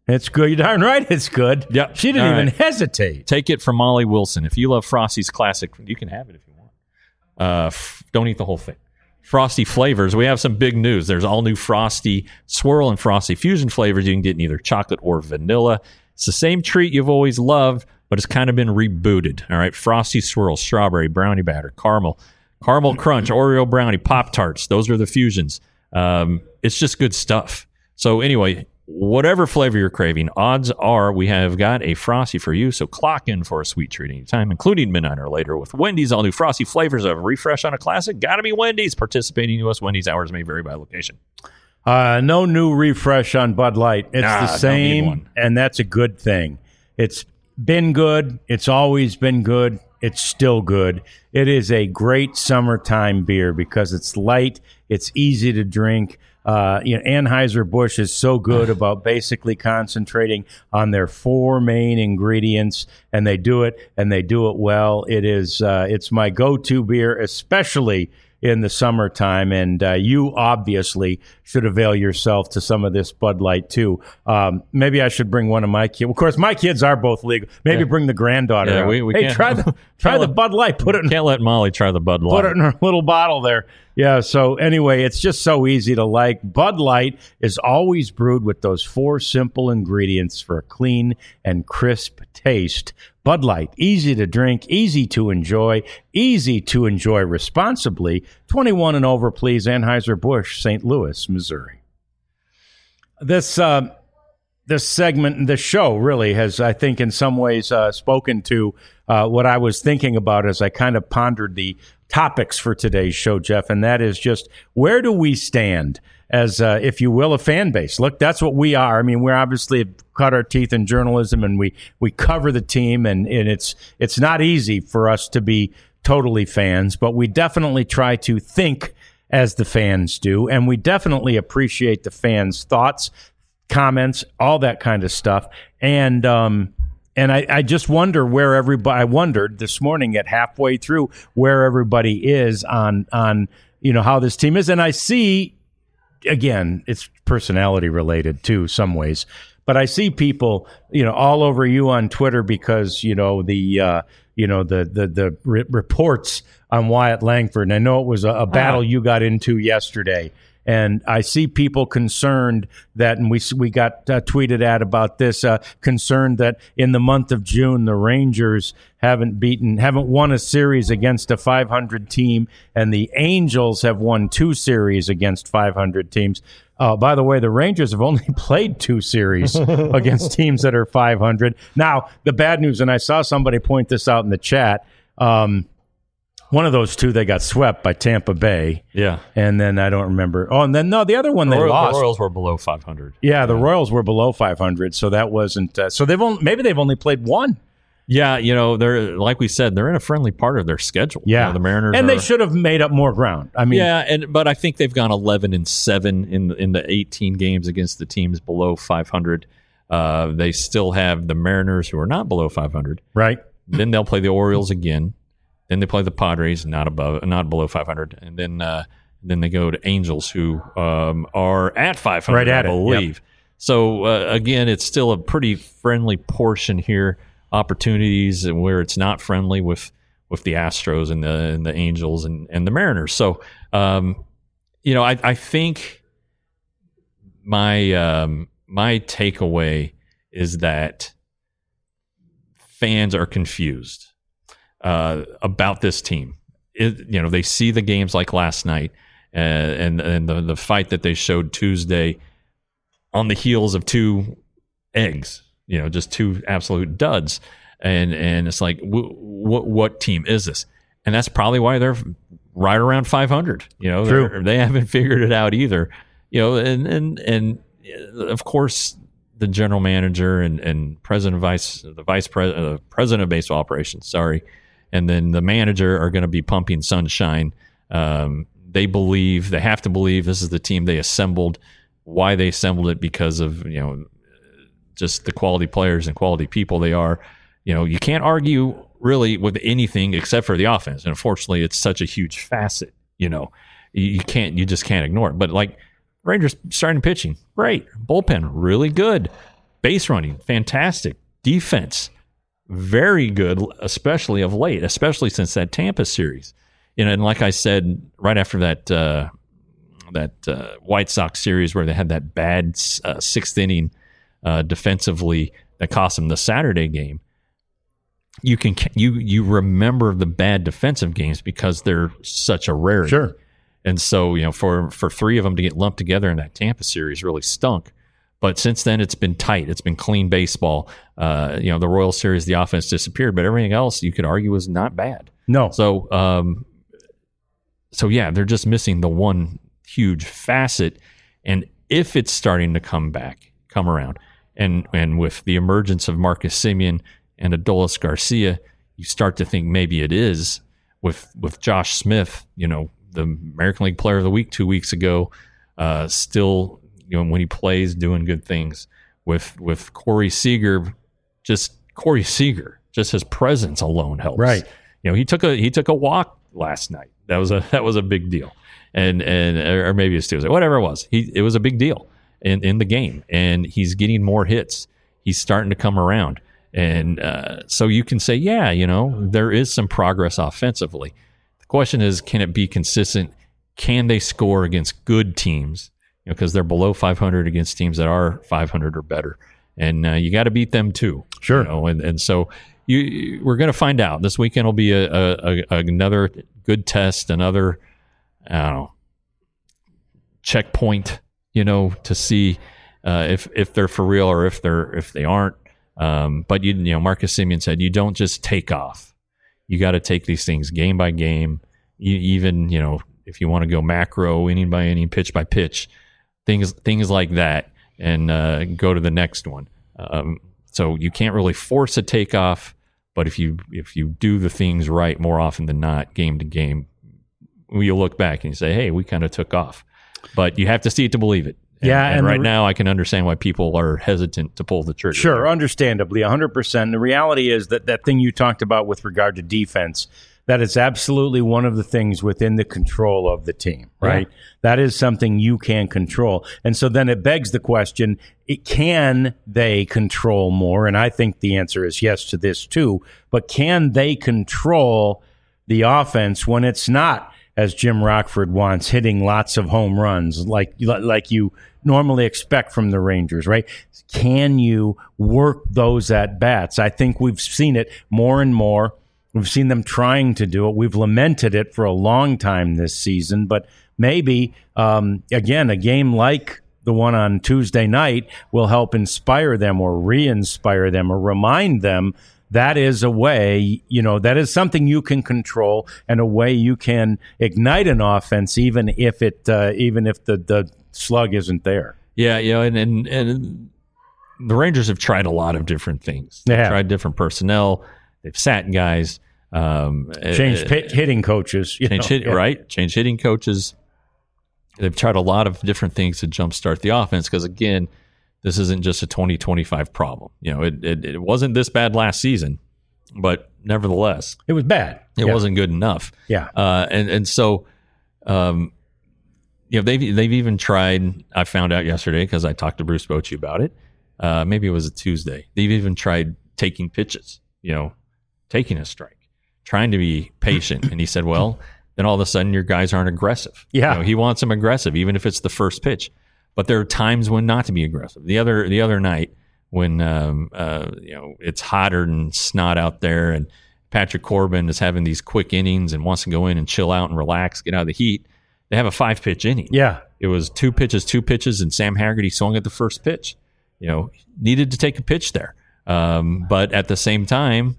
It's good. You're darn right it's good. Yeah. She didn't All even right. hesitate. Take it from Molly Wilson. If you love Frosty's Classic, you can have it if you want. Uh, f- don't eat the whole thing. Frosty flavors. We have some big news. There's all new Frosty Swirl and Frosty Fusion flavors. You can get in either chocolate or vanilla. It's the same treat you've always loved, but it's kind of been rebooted. All right. Frosty Swirl, strawberry, brownie batter, caramel, caramel crunch, Oreo brownie, Pop-Tarts. Those are the fusions. Um, it's just good stuff. So anyway, whatever flavor you're craving, odds are we have got a Frosty for you. So clock in for a sweet treat anytime, including midnight or later with Wendy's all new Frosty flavors of refresh on a classic. Got to be Wendy's. Participating U S Wendy's hours may vary by location. Uh, no new refresh on Bud Light. It's Nah, the don't need same, one. and that's a good thing. It's been good. It's always been good. It's still good. It is a great summertime beer because it's light. It's easy to drink. Uh, you know, Anheuser-Busch is so good about basically concentrating on their four main ingredients, and they do it, and they do it well. It is, uh, it's my go-to beer, especially in the summertime, and uh, you obviously should avail yourself to some of this Bud Light too. Um, maybe I should bring one of my kids. Of course, my kids are both legal. Maybe Yeah. bring the granddaughter. Yeah, out. we- we hey, can't- try the try can't the let- Bud Light. Put it in Can't let Molly try the Bud Light. Put it in her little bottle there. Yeah, so anyway, it's just so easy to like. Bud Light is always brewed with those four simple ingredients for a clean and crisp taste. Bud Light, easy to drink, easy to enjoy, easy to enjoy responsibly. twenty-one and over, please. Anheuser-Busch, Saint Louis, Missouri. This uh, this segment, this show really has, I think, in some ways uh, spoken to uh, what I was thinking about as I kind of pondered the topics for today's show, Jeff, and that is just where do we stand as, uh, if you will, a fan base? Look, that's what we are. I mean, we're obviously have cut our teeth in journalism, and we we cover the team, and, and it's it's not easy for us to be totally fans, but we definitely try to think as the fans do, and we definitely appreciate the fans' thoughts, comments, all that kind of stuff. And um, and I, I just wonder where everybody. I wondered this morning at halfway through where everybody is on on you know how this team is, and I see again it's personality related too, some ways, but I see people you know all over you on Twitter because you know the uh, you know the the the re- reports on Wyatt Langford, and I know it was a, a battle you got into yesterday. And I see people concerned that, and we we got uh, tweeted at about this, uh, concerned that in the month of June the Rangers haven't beaten, haven't won a series against a five hundred team, and the Angels have won two series against five hundred teams. Uh, by the way, the Rangers have only played two series against teams that are five hundred. Now, the bad news, and I saw somebody point this out in the chat. Um, One of those two, they got swept by Tampa Bay. Yeah. And then I don't remember. Oh, and then, no, the other one they Royals, lost. The Royals were below five hundred. Yeah, the Royals were below five hundred, so that wasn't. Uh, so they've only, maybe they've only played one. Yeah, you know, they're like we said, they're in a friendly part of their schedule. Yeah, You know, the Mariners, and are, they should have made up more ground. I mean, yeah, and but I think they've gone eleven and seven in the, in the eighteen games against the teams below five hundred. Uh, they still have the Mariners, who are not below five hundred. right. Then they'll play the Orioles again. Then they play the Padres, not above, not below five hundred, and then uh, then they go to Angels, who um, are at five hundred, Right at I it, believe. yep. So uh, again, it's still a pretty friendly portion here. Opportunities where it's not friendly with with the Astros and the and the Angels and, and the Mariners. So um, you know, I, I think my um, my takeaway is that fans are confused uh, about this team. It, you know, they see the games like last night uh, and and the the fight that they showed Tuesday on the heels of two eggs. You know, just two absolute duds, and and it's like, w- what what team is this? And that's probably why they're right around five hundred. You know, True. they haven't figured it out either. You know, and and and of course, the general manager and, and president, vice the vice president, uh, president of baseball operations, sorry, and then the manager are going to be pumping sunshine. Um, they believe they have to believe this is the team they assembled. Why they assembled it? Because of you know. just the quality players and quality people they are. You know, you can't argue really with anything except for the offense. And unfortunately, it's such a huge facet, you know, you, you can't, you just can't ignore it. But like Rangers starting pitching, great. Bullpen, really good. base running, fantastic. Defense, very good, especially of late, especially since that Tampa series. You know, and like I said, right after that uh, that uh, White Sox series where they had that bad uh, sixth inning uh, defensively that cost them the Saturday game, you can you you remember the bad defensive games because they're such a rarity. Sure. And so, you know, for, for three of them to get lumped together in that Tampa series really stunk. But since then, it's been tight. It's been clean baseball. Uh, you know, the Royal Series, the offense disappeared, but everything else you could argue was not bad. No. So, um, so yeah, they're just missing the one huge facet. And if it's starting to come back, come around, and and with the emergence of Marcus Semien and Adolis Garcia, you start to think maybe it is with with Josh Smith, you know, the American League Player of the Week two weeks ago, uh, still, you know, when he plays, doing good things. With with Corey Seager, just Corey Seager, just his presence alone helps. Right. You know, he took a he took a walk last night. That was a that was a big deal. And and or maybe it's Tuesday, whatever it was. He it was a big deal in, in the game, and he's getting more hits. He's starting to come around, and uh, so you can say, yeah, you know, there is some progress offensively. The question is, can it be consistent? Can they score against good teams? You know, because they're below five hundred against teams that are five hundred or better, and uh, you got to beat them too. Sure. You know, and and so you we're going to find out. This weekend will be a, a, a another good test, another I don't know checkpoint. You know, to see uh, if if they're for real or if they're if they aren't. Um, but you you know, Marcus Semien said you don't just take off. You got to take these things game by game. You, even you know, if you want to go macro, inning by inning, pitch by pitch, things things like that, and uh, go to the next one. Um, so you can't really force a takeoff, but if you if you do the things right more often than not, game to game, you look back and you say, hey, we kind of took off. But you have to see it to believe it. And, Yeah, and, and right the, now I can understand why people are hesitant to pull the trigger. Sure, understandably, one hundred percent. The reality is that that thing you talked about with regard to defense, that is absolutely one of the things within the control of the team, right? Yeah. That is something you can control. And so then it begs the question, it, can they control more? And I think the answer is yes to this too. But can they control the offense when it's not, as Jim Rockford wants, hitting lots of home runs like like you normally expect from the Rangers, right? Can you work those at bats? I think we've seen it more and more. We've seen them trying to do it. We've lamented it for a long time this season, but maybe, um, again, a game like the one on Tuesday night will help inspire them or re-inspire them or remind them that is a way, you know, that is something you can control and a way you can ignite an offense even if it, uh, even if the, the slug isn't there. Yeah, you know, and, and and the Rangers have tried a lot of different things. They've yeah. tried different personnel. They've sat guys. Um, Changed uh, hitting coaches. You change know? hit, yeah. Right? Change hitting coaches. They've tried a lot of different things to jumpstart the offense because, again, this isn't just a twenty twenty-five problem. You know, it, it it wasn't this bad last season, but nevertheless, it was bad. It yeah. wasn't good enough. Yeah, uh, and and so, um, you know, they've they've even tried. I found out yesterday because I talked to Bruce Bochy about it. Uh, maybe it was a Tuesday. They've even tried taking pitches. You know, taking a strike, trying to be patient. And he said, well, then all of a sudden your guys aren't aggressive. Yeah, you know, he wants them aggressive, even if it's the first pitch. But there are times when not to be aggressive. The other the other night when um, uh, you know it's hotter than snot out there, and Patrick Corbin is having these quick innings and wants to go in and chill out and relax, get out of the heat. They have a five pitch inning. Yeah, it was two pitches, two pitches, and Sam Haggerty swung at the first pitch. You know, needed to take a pitch there, um, but at the same time,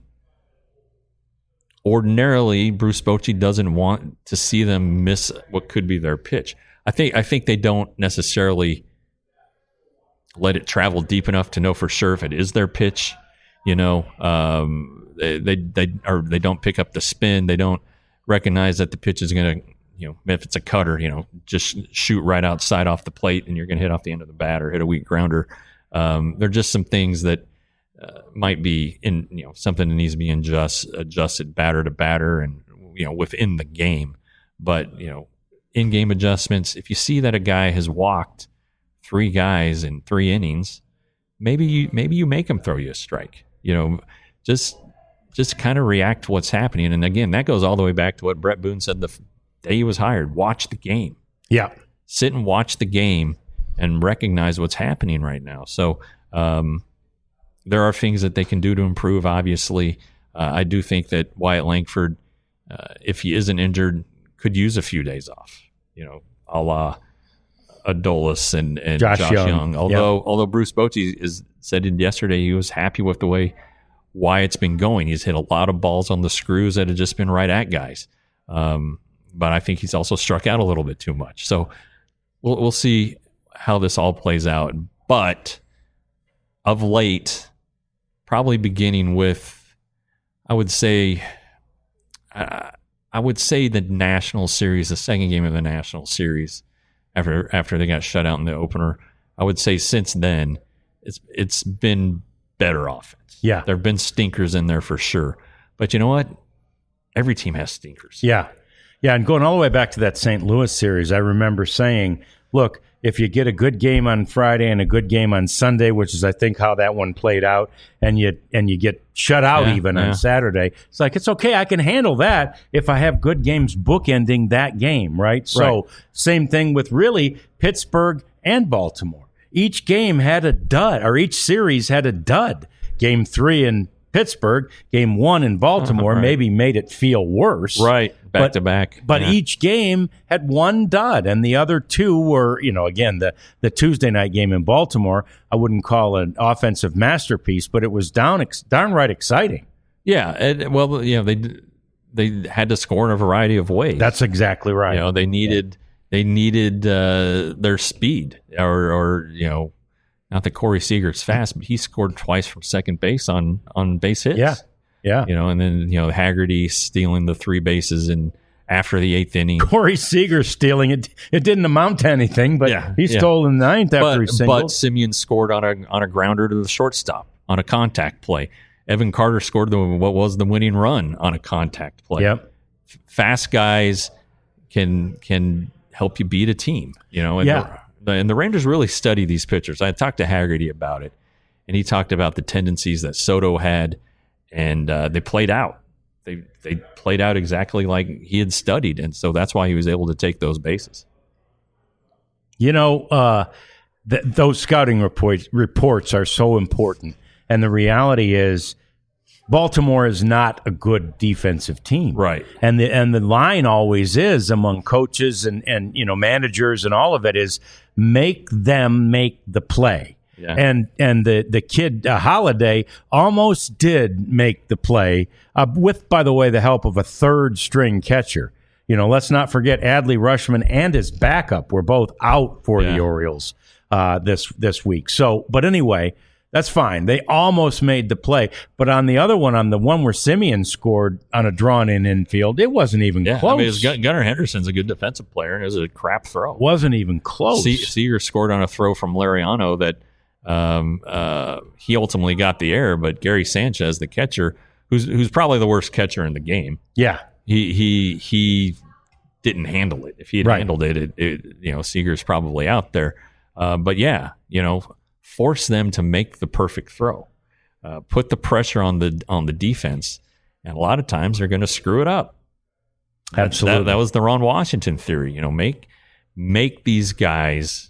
ordinarily Bruce Bochy doesn't want to see them miss what could be their pitch. I think I think they don't necessarily let it travel deep enough to know for sure if it is their pitch. You know, um, they they they or they don't pick up the spin. They don't recognize that the pitch is going to, you know, if it's a cutter, you know, just shoot right outside off the plate, and you're going to hit off the end of the bat or hit a weak grounder. Um, they're just some things that uh, might be in, you know, something that needs to be adjust, adjusted batter to batter, and you know, within the game. But you know, in-game adjustments. If you see that a guy has walked three guys in three innings, maybe you maybe you make him throw you a strike. You know, just just kind of react to what's happening. And again, that goes all the way back to what Brett Boone said the day he was hired. Watch the game. Yeah. Sit and watch the game and recognize what's happening right now. So um, there are things that they can do to improve, obviously. Uh, I do think that Wyatt Langford, uh, if he isn't injured, could use a few days off, you know, a la Adolis and, and Josh, Josh Young. Young. Although Yep. although Bruce Bochy is said yesterday he was happy with the way Wyatt's been going. He's hit a lot of balls on the screws that have just been right at guys. Um, but I think he's also struck out a little bit too much. So we'll we'll see how this all plays out. But of late, probably beginning with, I would say, uh, I would say the National Series, the second game of the National Series, after after they got shut out in the opener. I would say since then, it's it's been better offense. Yeah. There have been stinkers in there for sure. But you know what? Every team has stinkers. Yeah. Yeah, and going all the way back to that Saint Louis series, I remember saying, look, if you get a good game on Friday and a good game on Sunday, which is I think how that one played out, and you and you get shut out Yeah, even yeah. on Saturday, it's like, it's okay, I can handle that if I have good games bookending that game, right? So Right. same thing with really Pittsburgh and Baltimore. Each game had a dud, or each series had a dud. Game three in Pittsburgh, game one in Baltimore Right. maybe made it feel worse. Right. Back But- to back. But Yeah. each game had one dud, and the other two were, you know, again, the, the Tuesday night game in Baltimore, I wouldn't call an offensive masterpiece, but it was down, ex- downright exciting. Yeah, and, well, you know, they they had to score in a variety of ways. That's exactly right. You know, they needed they needed uh, their speed, or or you know, not that Corey Seager's fast, but he scored twice from second base on on base hits. Yeah. Yeah. You know, and then you know Haggerty stealing the three bases and after the eighth inning. Corey Seager stealing it. It didn't amount to anything, but Yeah, he yeah. stole in the ninth after But, he singled. but Simeon scored on a on a grounder to the shortstop on a contact play. Evan Carter scored the what was the winning run on a contact play. Yep. Fast guys can can help you beat a team, you know. And Yeah. the, and the Rangers really study these pitchers. I talked to Haggerty about it, and he talked about the tendencies that Soto had, and uh, they played out. They they played out exactly like he had studied, and so that's why he was able to take those bases. You know, uh, th- those scouting reports reports are so important, and the reality is, Baltimore is not a good defensive team, Right. And the and the line always is among coaches and and you know managers and all of it is make them make the play. Yeah. And and the the kid uh, Holiday almost did make the play uh, with, by the way, the help of a third string catcher. You know, let's not forget Adley Rutschman and his backup were both out for Yeah. the Orioles uh, this this week. So, but anyway, that's fine. They almost made the play. But on the other one, on the one where Simeon scored on a drawn-in infield, it wasn't even Yeah, close. I mean, it was Gun- Gunnar Henderson's a good defensive player, and it was a crap throw. wasn't even close. Se- Seager scored on a throw from Lariano that um, uh, he ultimately got the error, but Gary Sanchez, the catcher, who's who's probably the worst catcher in the game, yeah. he he he didn't handle it. If he had Right. handled it, it, it, you know, Seager's probably out there. Uh, but yeah, you know, force them to make the perfect throw, uh, put the pressure on the on the defense, and a lot of times they're going to screw it up. That- Absolutely. that, that was the Ron Washington theory. You know, make make these guys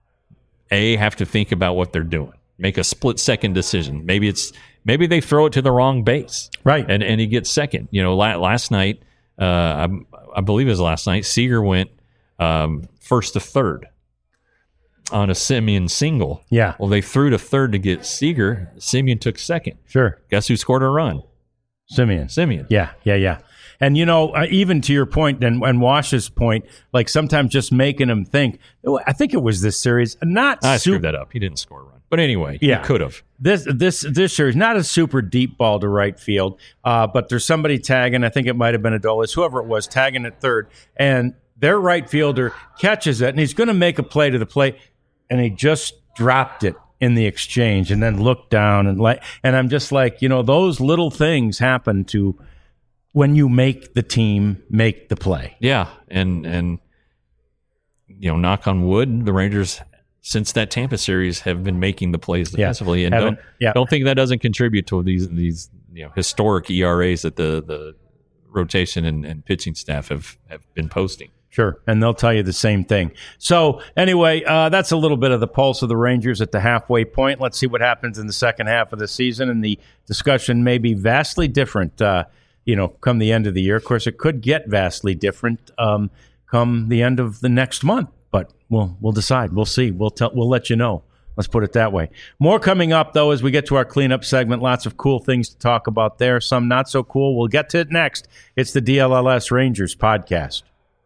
a have to think about what they're doing, make a split second decision. Maybe it's maybe they throw it to the wrong base, Right. and and he gets second. You know, la- last night, uh, I, I believe it was last night, Seager went um, first to third on a Simeon single. Yeah. Well, they threw to third to get Seager. Simeon took second. Sure. Guess who scored a run? Simeon. Simeon. Yeah, yeah, yeah. And, you know, uh, even to your point and, and Wash's point, like sometimes just making them think, I think it was this series, not I super, screwed that up. He didn't score a run. But anyway, Yeah. he could have. this this this series, not a super deep ball to right field, uh, but there's somebody tagging, I think it might have been Adolis, whoever it was, tagging at third, and their right fielder catches it, and he's going to make a play to the plate, and he just dropped it in the exchange and then looked down and like, and I'm just like, you know, those little things happen to when you make the team make the play. Yeah, and and you know, knock on wood, the Rangers since that Tampa series have been making the plays defensively, yeah, and don't yeah. don't think that doesn't contribute to these these you know historic E R As that the the rotation and, and pitching staff have have been posting. Sure, and they'll tell you the same thing. So anyway, uh, that's a little bit of the pulse of the Rangers at the halfway point. Let's see what happens in the second half of the season, and the discussion may be vastly different, uh, you know, come the end of the year. Of course, it could get vastly different um, come the end of the next month, but we'll we'll decide. We'll see. We'll tell. We'll let you know. Let's put it that way. More coming up, though, as we get to our cleanup segment. Lots of cool things to talk about there. Some not so cool. We'll get to it next. It's the D L L S Rangers podcast.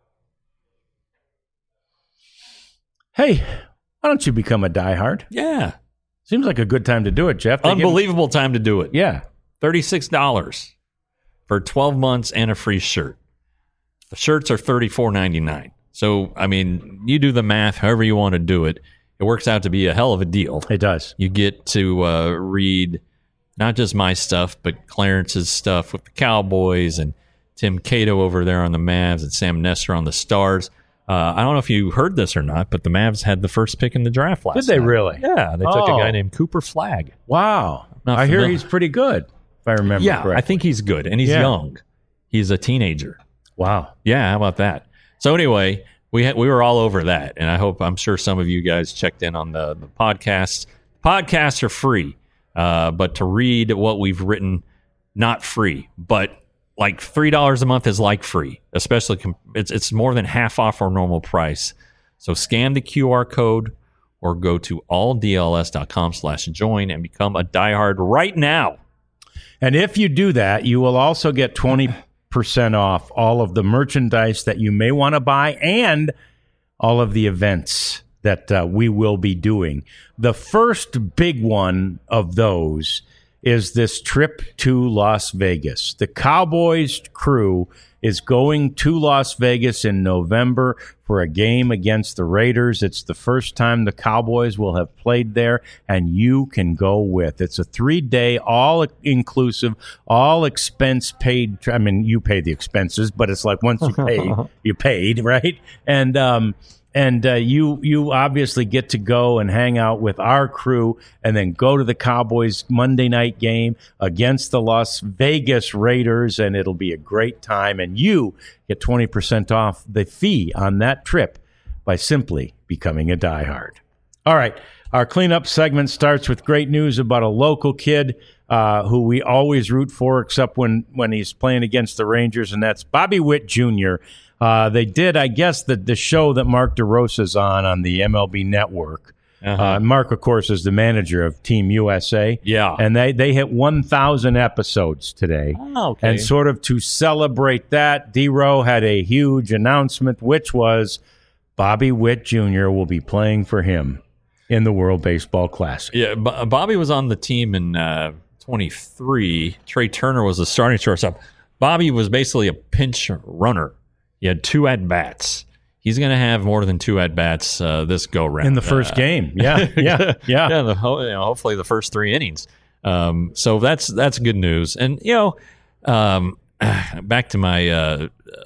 Hey, why don't you become a diehard? Yeah. Seems like a good time to do it, Jeff. They Unbelievable give... time to do it. Yeah. thirty-six dollars for twelve months and a free shirt. The shirts are thirty-four ninety-nine. So, I mean, you do the math however you want to do it. It works out to be a hell of a deal. It does. You get to uh, read not just my stuff, but Clarence's stuff with the Cowboys and Tim Cato over there on the Mavs and Sam Nestor on the Stars. Uh, I don't know if you heard this or not, but the Mavs had the first pick in the draft last Did they night. really? Yeah, they took oh. a guy named Cooper Flagg. Wow. Not I familiar. hear he's pretty good, if I remember yeah, correctly. I think he's good, and he's yeah. young. He's a teenager. Wow. Yeah, how about that? So anyway, we had, we were all over that, and I hope, I'm sure some of you guys checked in on the, the podcast. Podcasts are free, uh, but to read what we've written, not free, but like three dollars a month is like free, especially com- it's it's more than half off our normal price. So scan the Q R code or go to all D L S dot com slash join and become a diehard right now. And if you do that, you will also get twenty percent off all of the merchandise that you may want to buy and all of the events that uh, we will be doing. The first big one of those is this trip to Las Vegas. The Cowboys crew is going to Las Vegas in November for a game against the Raiders. It's the first time the Cowboys will have played there, and you can go with. It's a three-day, all-inclusive, all-expense-paid. I mean, you pay the expenses, but it's like once you pay, you paid, right? And um, and uh, you you obviously get to go and hang out with our crew and then go to the Cowboys Monday night game against the Las Vegas Raiders, and it'll be a great time. And you get twenty percent off the fee on that trip by simply becoming a diehard. All right, our cleanup segment starts with great news about a local kid uh, who we always root for, except when, when he's playing against the Rangers, and that's Bobby Witt Junior Uh, they did, I guess, the, the show that Mark DeRosa's on on the M L B Network. Uh-huh. Uh, Mark, of course, is the manager of Team U S A. Yeah. And they, they hit one thousand episodes today. Oh, okay. And sort of to celebrate that, D-Row had a huge announcement, which was Bobby Witt Junior will be playing for him in the World Baseball Classic. Yeah, B- Bobby was on the team in uh, twenty-three. Trey Turner was the starting shortstop. Bobby was basically a pinch runner. He had two at-bats. He's going to have more than two at-bats uh, this go-round. In the first uh, game. Yeah, yeah, yeah. yeah the, you know, hopefully the first three innings. Um, so that's that's good news. And, you know, um, back to my uh,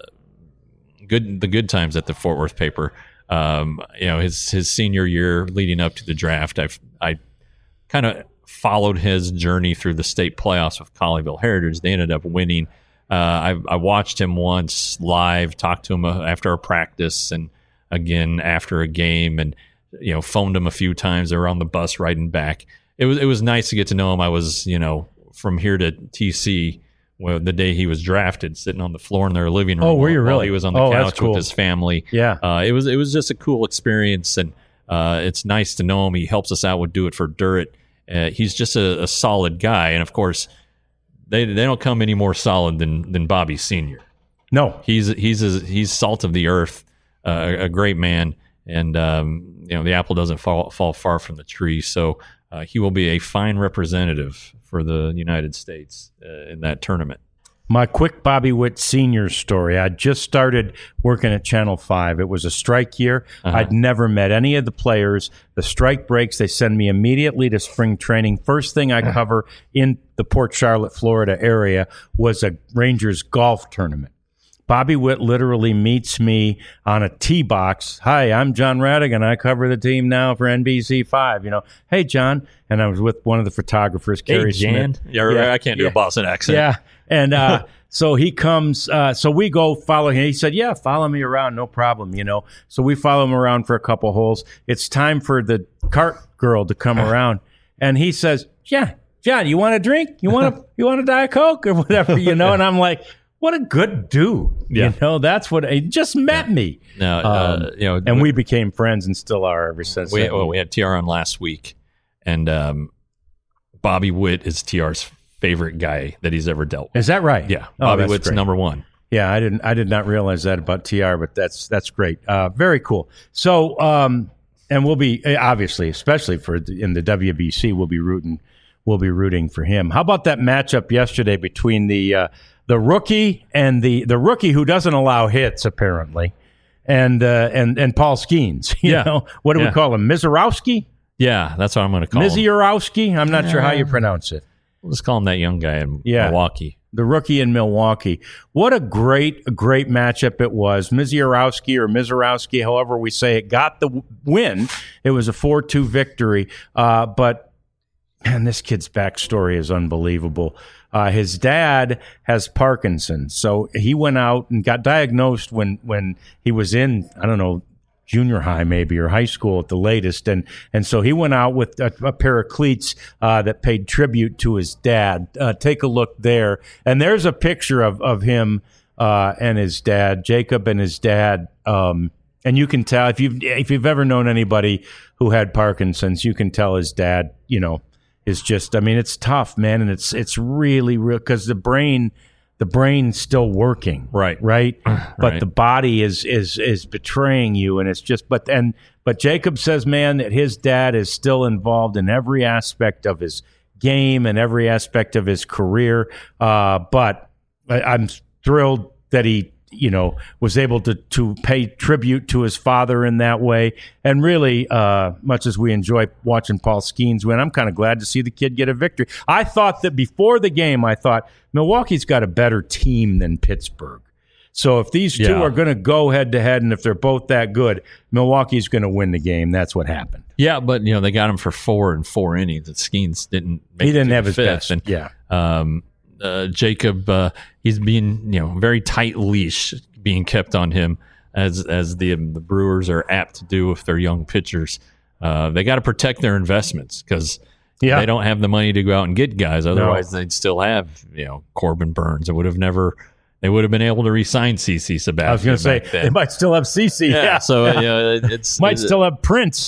good the good times at the Fort Worth paper. Um, you know, his his senior year leading up to the draft, I've, I kind of followed his journey through the state playoffs with Colleyville Heritage. They ended up winning. Uh, I, I watched him once live, talked to him after a practice, and again after a game, and you know, phoned him a few times. They were on the bus riding back. It was it was nice to get to know him. I was, you know, from here to T C, well, the day he was drafted, sitting on the floor in their living room. Oh, were you while really? He was on the oh, couch cool. with his family. Yeah, uh, it was it was just a cool experience, and uh, it's nice to know him. He helps us out with Do It for Dirt. Uh, he's just a, a solid guy, and of course, they they don't come any more solid than than Bobby Senior No, he's he's a, he's salt of the earth, uh, a great man, and um, you know, the apple doesn't fall fall far from the tree. So uh, he will be a fine representative for the United States uh, in that tournament. My quick Bobby Witt Senior story. I just started working at Channel five. It was a strike year. Uh-huh. I'd never met any of the players. The strike breaks, they send me immediately to spring training. First thing I cover in the Port Charlotte, Florida area was a Rangers golf tournament. Bobby Witt literally meets me on a tee box. Hi, I'm John Radigan. I cover the team now for N B C five. You know, hey, John. And I was with one of the photographers, Kerry hey, Jan. Smith. Yeah, yeah, I can't do yeah. a Boston accent. Yeah. And uh, so he comes. Uh, so we go follow him. He said, yeah, follow me around. No problem, you know. So we follow him around for a couple holes. It's time for the cart girl to come around. And he says, yeah, John, you want a drink? You want a, you want a Diet Coke or whatever, you know? And I'm like, what a good dude. Yeah. You know, that's what he just met yeah. me. No, um, uh, you know, and we, we became friends and still are ever since. We, well, we had T R on last week, and um, Bobby Witt is T R's favorite guy that he's ever dealt with. Is that right? Yeah. Oh, Bobby Witt's great. number one. Yeah, I didn't I did not realize that about T R, but that's that's great. Uh, very cool. So, um, and we'll be obviously, especially for the, in the W B C, we'll be rooting we'll be rooting for him. How about that matchup yesterday between the uh, the rookie and the the rookie who doesn't allow hits apparently, and uh, and and Paul Skeens? You yeah. know, what do yeah. we call him? Mizorowski? Yeah, that's what I'm going to call him. Mizorowski? I'm not yeah. sure how you pronounce it. We'll just call him that young guy in yeah. Milwaukee. The rookie in Milwaukee. What a great, great matchup it was. Mizorowski or Mizorowski, however we say it, got the win. It was a four two victory. Uh, but, man, this kid's backstory is unbelievable. Uh, his dad has Parkinson's, so he went out and got diagnosed when, when he was in, I don't know, junior high maybe or high school at the latest, and and so he went out with a, a pair of cleats uh, that paid tribute to his dad. Uh, take a look there, and there's a picture of of him uh, and his dad, Jacob and his dad, um, and you can tell if you've if you've ever known anybody who had Parkinson's, you can tell his dad, you know, is just. I mean, it's tough, man, and it's it's really real because the brain. The brain's still working, right? Right, but right. the body is is is betraying you, and it's just. But and but Jacob says, man, that his dad is still involved in every aspect of his game and every aspect of his career. Uh, but I, I'm thrilled that he, you know, was able to to pay tribute to his father in that way. And really, uh, much as we enjoy watching Paul Skeens win, I'm kind of glad to see the kid get a victory. I thought that before the game, I thought Milwaukee's got a better team than Pittsburgh. So if these two yeah. are going to go head to head, and if they're both that good, Milwaukee's going to win the game. That's what happened. Yeah, but you know they got him for four and four innings. And Skeens didn't. Make He didn't it have his fifth. best. And, yeah. Um, uh, Jacob, uh, he's being you know very tight leash being kept on him as as the the Brewers are apt to do with their young pitchers. Uh, they got to protect their investments because yeah. they don't have the money to go out and get guys. Otherwise, no. they'd still have you know Corbin Burns. It would have never. They would have been able to re-sign C C Sabathia. I was going to say then. they might still have C C. Yeah, yeah. so uh, yeah, it's might it's, still have Prince.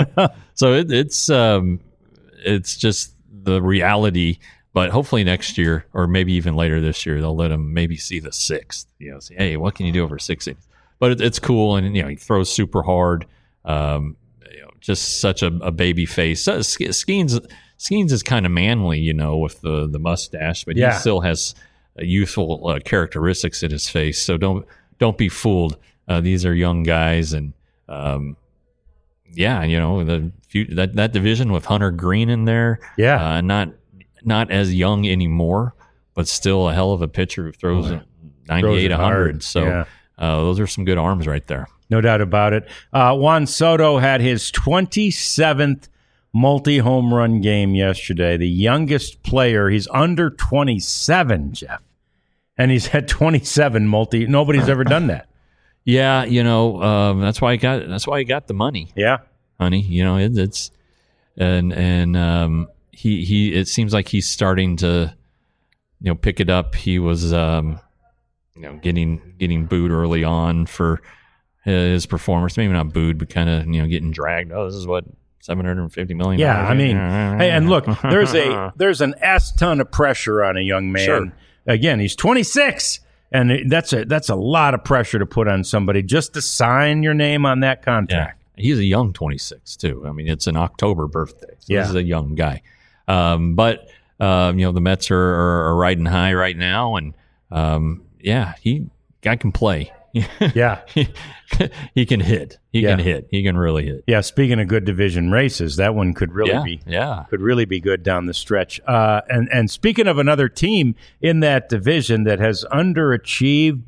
so it, it's um, it's just the reality. But hopefully next year, or maybe even later this year, they'll let him maybe see the sixth. You know, say, hey, what can you do over six innings? But it, it's cool, and you know, he throws super hard. Um, you know, just such a, a baby face. So, Skeens Skeens is kind of manly, you know, with the the mustache, but yeah. he still has youthful uh, characteristics in his face. So don't don't be fooled. Uh, these are young guys, and um, yeah, you know the that that division with Hunter Green in there. Yeah, uh, not not as young anymore, but still a hell of a pitcher who throws oh, ninety-eight, one hundred. So yeah. uh, those are some good arms right there. No doubt about it. Uh, Juan Soto had his twenty-seventh multi-home run game yesterday. The youngest player. He's under twenty-seven, Jeff. And he's had twenty-seven multi. Nobody's ever done that. Yeah, you know um, that's why he got. That's why he got the money. Yeah, honey. You know it, it's and and um, he he. It seems like he's starting to, you know, pick it up. He was, um, you know, getting getting booed early on for his performance. Maybe not booed, but kind of you know getting dragged. Oh, this is what seven hundred fifty million. Yeah, I mean, hey, and look, there's a there's an S ton of pressure on a young man. Sure. Again, he's twenty-six, and that's a that's a lot of pressure to put on somebody just to sign your name on that contract. Yeah. He's a young twenty-six too. I mean, it's an October birthday. So yeah, he's a young guy. Um, but um, you know, the Mets are, are, are riding high right now, and um, yeah, he guy can play. Yeah, he, he can hit. He yeah. can hit. He can really hit. Yeah. Speaking of good division races, that one could really yeah, be yeah could really be good down the stretch. Uh, and and speaking of another team in that division that has underachieved, but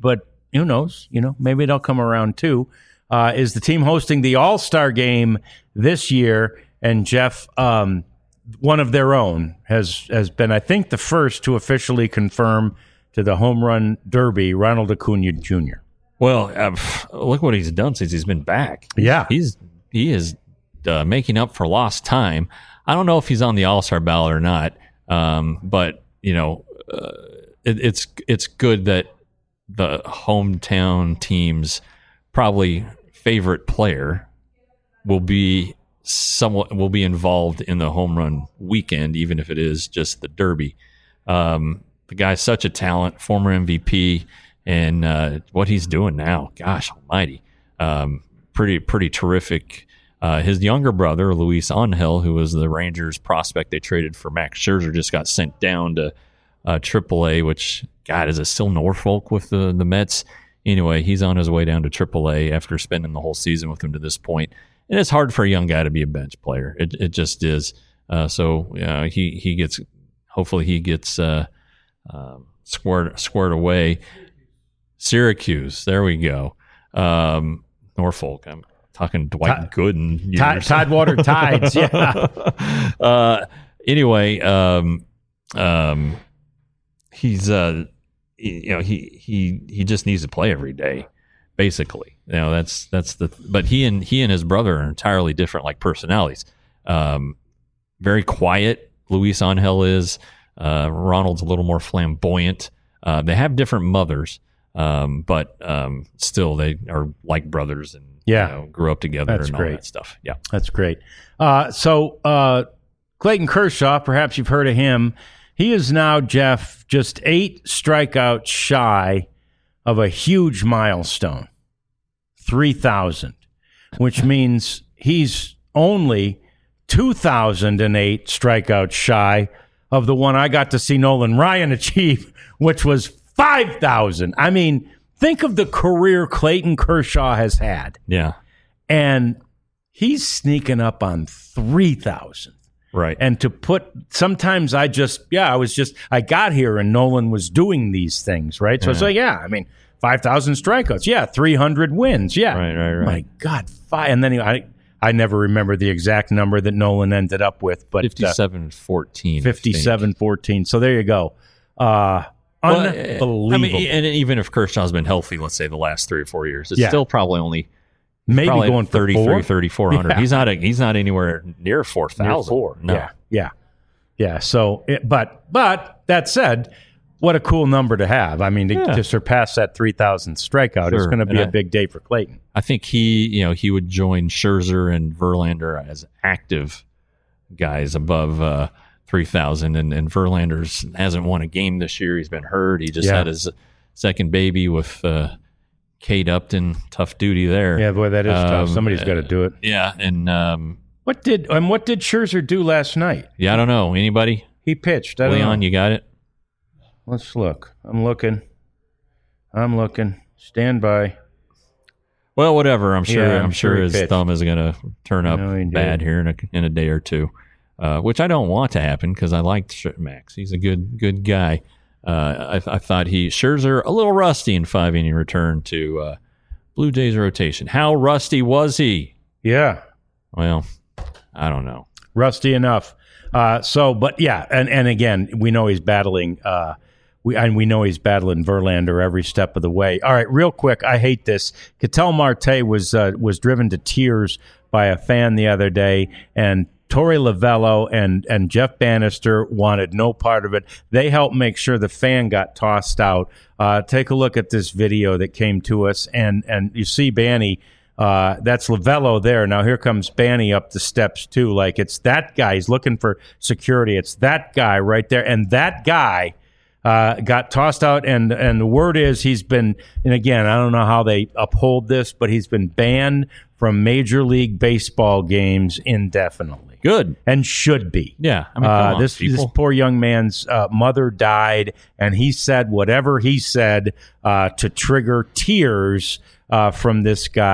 who knows? You know, maybe they'll come around too. Uh, is the team hosting the All-Star game this year? And Jeff, um, one of their own, has has been, I think, the first to officially confirm to the Home Run Derby, Ronald Acuna Junior Well, uh, look what he's done since he's been back. Yeah, he's he is uh, making up for lost time. I don't know if he's on the All-Star ballot or not, um, but you know, uh, it, it's it's good that the hometown team's probably favorite player will be somewhat will be involved in the home run weekend, even if it is just the Derby. Um, the guy's such a talent, former M V P, and uh, what he's doing now, gosh almighty, um, pretty pretty terrific. Uh, his younger brother, Luis Angel, who was the Rangers prospect they traded for Max Scherzer, just got sent down to uh, triple A, which, God, is it still Norfolk with the, the Mets? Anyway, he's on his way down to triple A after spending the whole season with him to this point. And it's hard for a young guy to be a bench player. It it just is. Uh, so uh, he he gets, hopefully he gets uh, uh, squared squared away. Syracuse, there we go. Um, Norfolk, I'm talking Dwight Todd, Gooden. Todd, Tidewater Tides, yeah. uh, anyway, um, um, he's uh, you know he he he just needs to play every day. Basically, you know, that's that's the. But he and he and his brother are entirely different, like personalities. Um, very quiet. Luis Angel is. Uh, Ronald's a little more flamboyant. Uh, they have different mothers, um, but um, still they are like brothers and yeah, you know, grew up together that's and great. all that stuff. Yeah, that's great. Uh, so uh, Clayton Kershaw, perhaps you've heard of him. He is now, Jeff, just eight strikeouts shy of a huge milestone, three thousand, which means he's only two thousand eight strikeouts shy of the one I got to see Nolan Ryan achieve, which was five thousand. I mean, think of the career Clayton Kershaw has had. Yeah. And he's sneaking up on three thousand. Right. And to put, sometimes I just, yeah, I was just, I got here and Nolan was doing these things, right? So yeah. it's like, yeah, I mean, five thousand strikeouts. Yeah, three hundred wins. Yeah. Right, right, right. My God, five. And then he, I I never remember the exact number that Nolan ended up with, but fifty-seven fourteen. Uh, fifty-seven fourteen. So there you go. Uh, well, unbelievable. I mean, and even if Kershaw's been healthy, let's say the last three or four years, it's yeah. still probably only maybe probably going for thirty-three, thirty-four hundred. Yeah. He's not a, he's not anywhere near four thousand. Four. No. Yeah, yeah, yeah. So, it, but but that said, what a cool number to have. I mean, to, yeah. to surpass that three thousand strikeout sure. is going to be and a I, big day for Clayton. I think he, you know, he would join Scherzer and Verlander as active guys above uh, three thousand. And, and Verlander's hasn't won a game this year. He's been hurt. He just yeah. had his second baby with uh, Kate Upton. Tough duty there. Yeah, boy, that is um, tough. Somebody's got to do it. Yeah, and um, what did and what did Scherzer do last night? Yeah, I don't know. Anybody? He pitched. I don't Leon, know. you got it? Let's look. I'm looking. I'm looking. Stand by. Well, whatever. I'm sure. Yeah, I'm I'm sure, sure his pitched. thumb is going to turn up No, he did. bad here in a in a day or two, uh, which I don't want to happen because I liked Sh- Max. He's a good good guy. Uh, I, I thought he Scherzer a little rusty in five inning return to uh, Blue Jays rotation. How rusty was he? Yeah. Well, I don't know. Rusty enough. Uh, so, but yeah, and, and again, we know he's battling. Uh, we and we know he's battling Verlander every step of the way. All right, real quick, I hate this. Ketel Marte was uh, was driven to tears by a fan the other day, and Torey Lovullo and and Jeff Bannister wanted no part of it. They helped make sure the fan got tossed out. Uh, take a look at this video that came to us, and and you see Banny. Uh, that's Lovullo there. Now here comes Banny up the steps too. Like it's that guy. He's looking for security. It's that guy right there, and that guy uh, got tossed out. And and the word is he's been. And again, I don't know how they uphold this, but he's been banned from Major League Baseball games indefinitely. Good. And should be. Yeah. I mean, uh, come on, this people. this poor young man's uh, mother died, and he said whatever he said uh, to trigger tears uh, from this guy.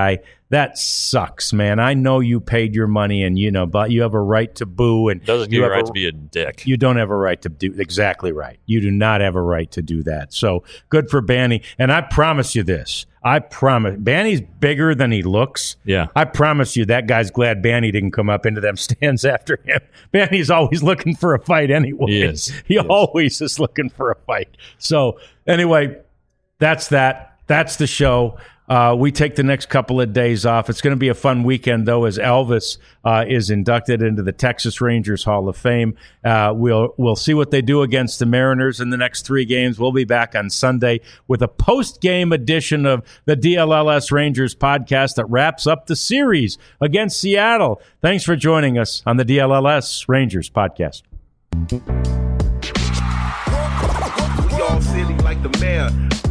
That sucks, man. I know you paid your money, and you know, but you have a right to boo, and doesn't give you you have a right a, to be a dick. You don't have a right to do exactly right. You do not have a right to do that. So good for Banny. And I promise you this. I promise. Banny's bigger than he looks. Yeah. I promise you that guy's glad Banny didn't come up into them stands after him. Banny's always looking for a fight anyway. He is. He, he always is. is looking for a fight. So anyway, that's that. That's the show. Uh, we take the next couple of days off. It's going to be a fun weekend, though, as Elvis uh, is inducted into the Texas Rangers Hall of Fame. Uh, we'll we'll see what they do against the Mariners in the next three games. We'll be back on Sunday with a post-game edition of the D L L S Rangers podcast that wraps up the series against Seattle. Thanks for joining us on the D L L S Rangers podcast. We all silly like the mayor.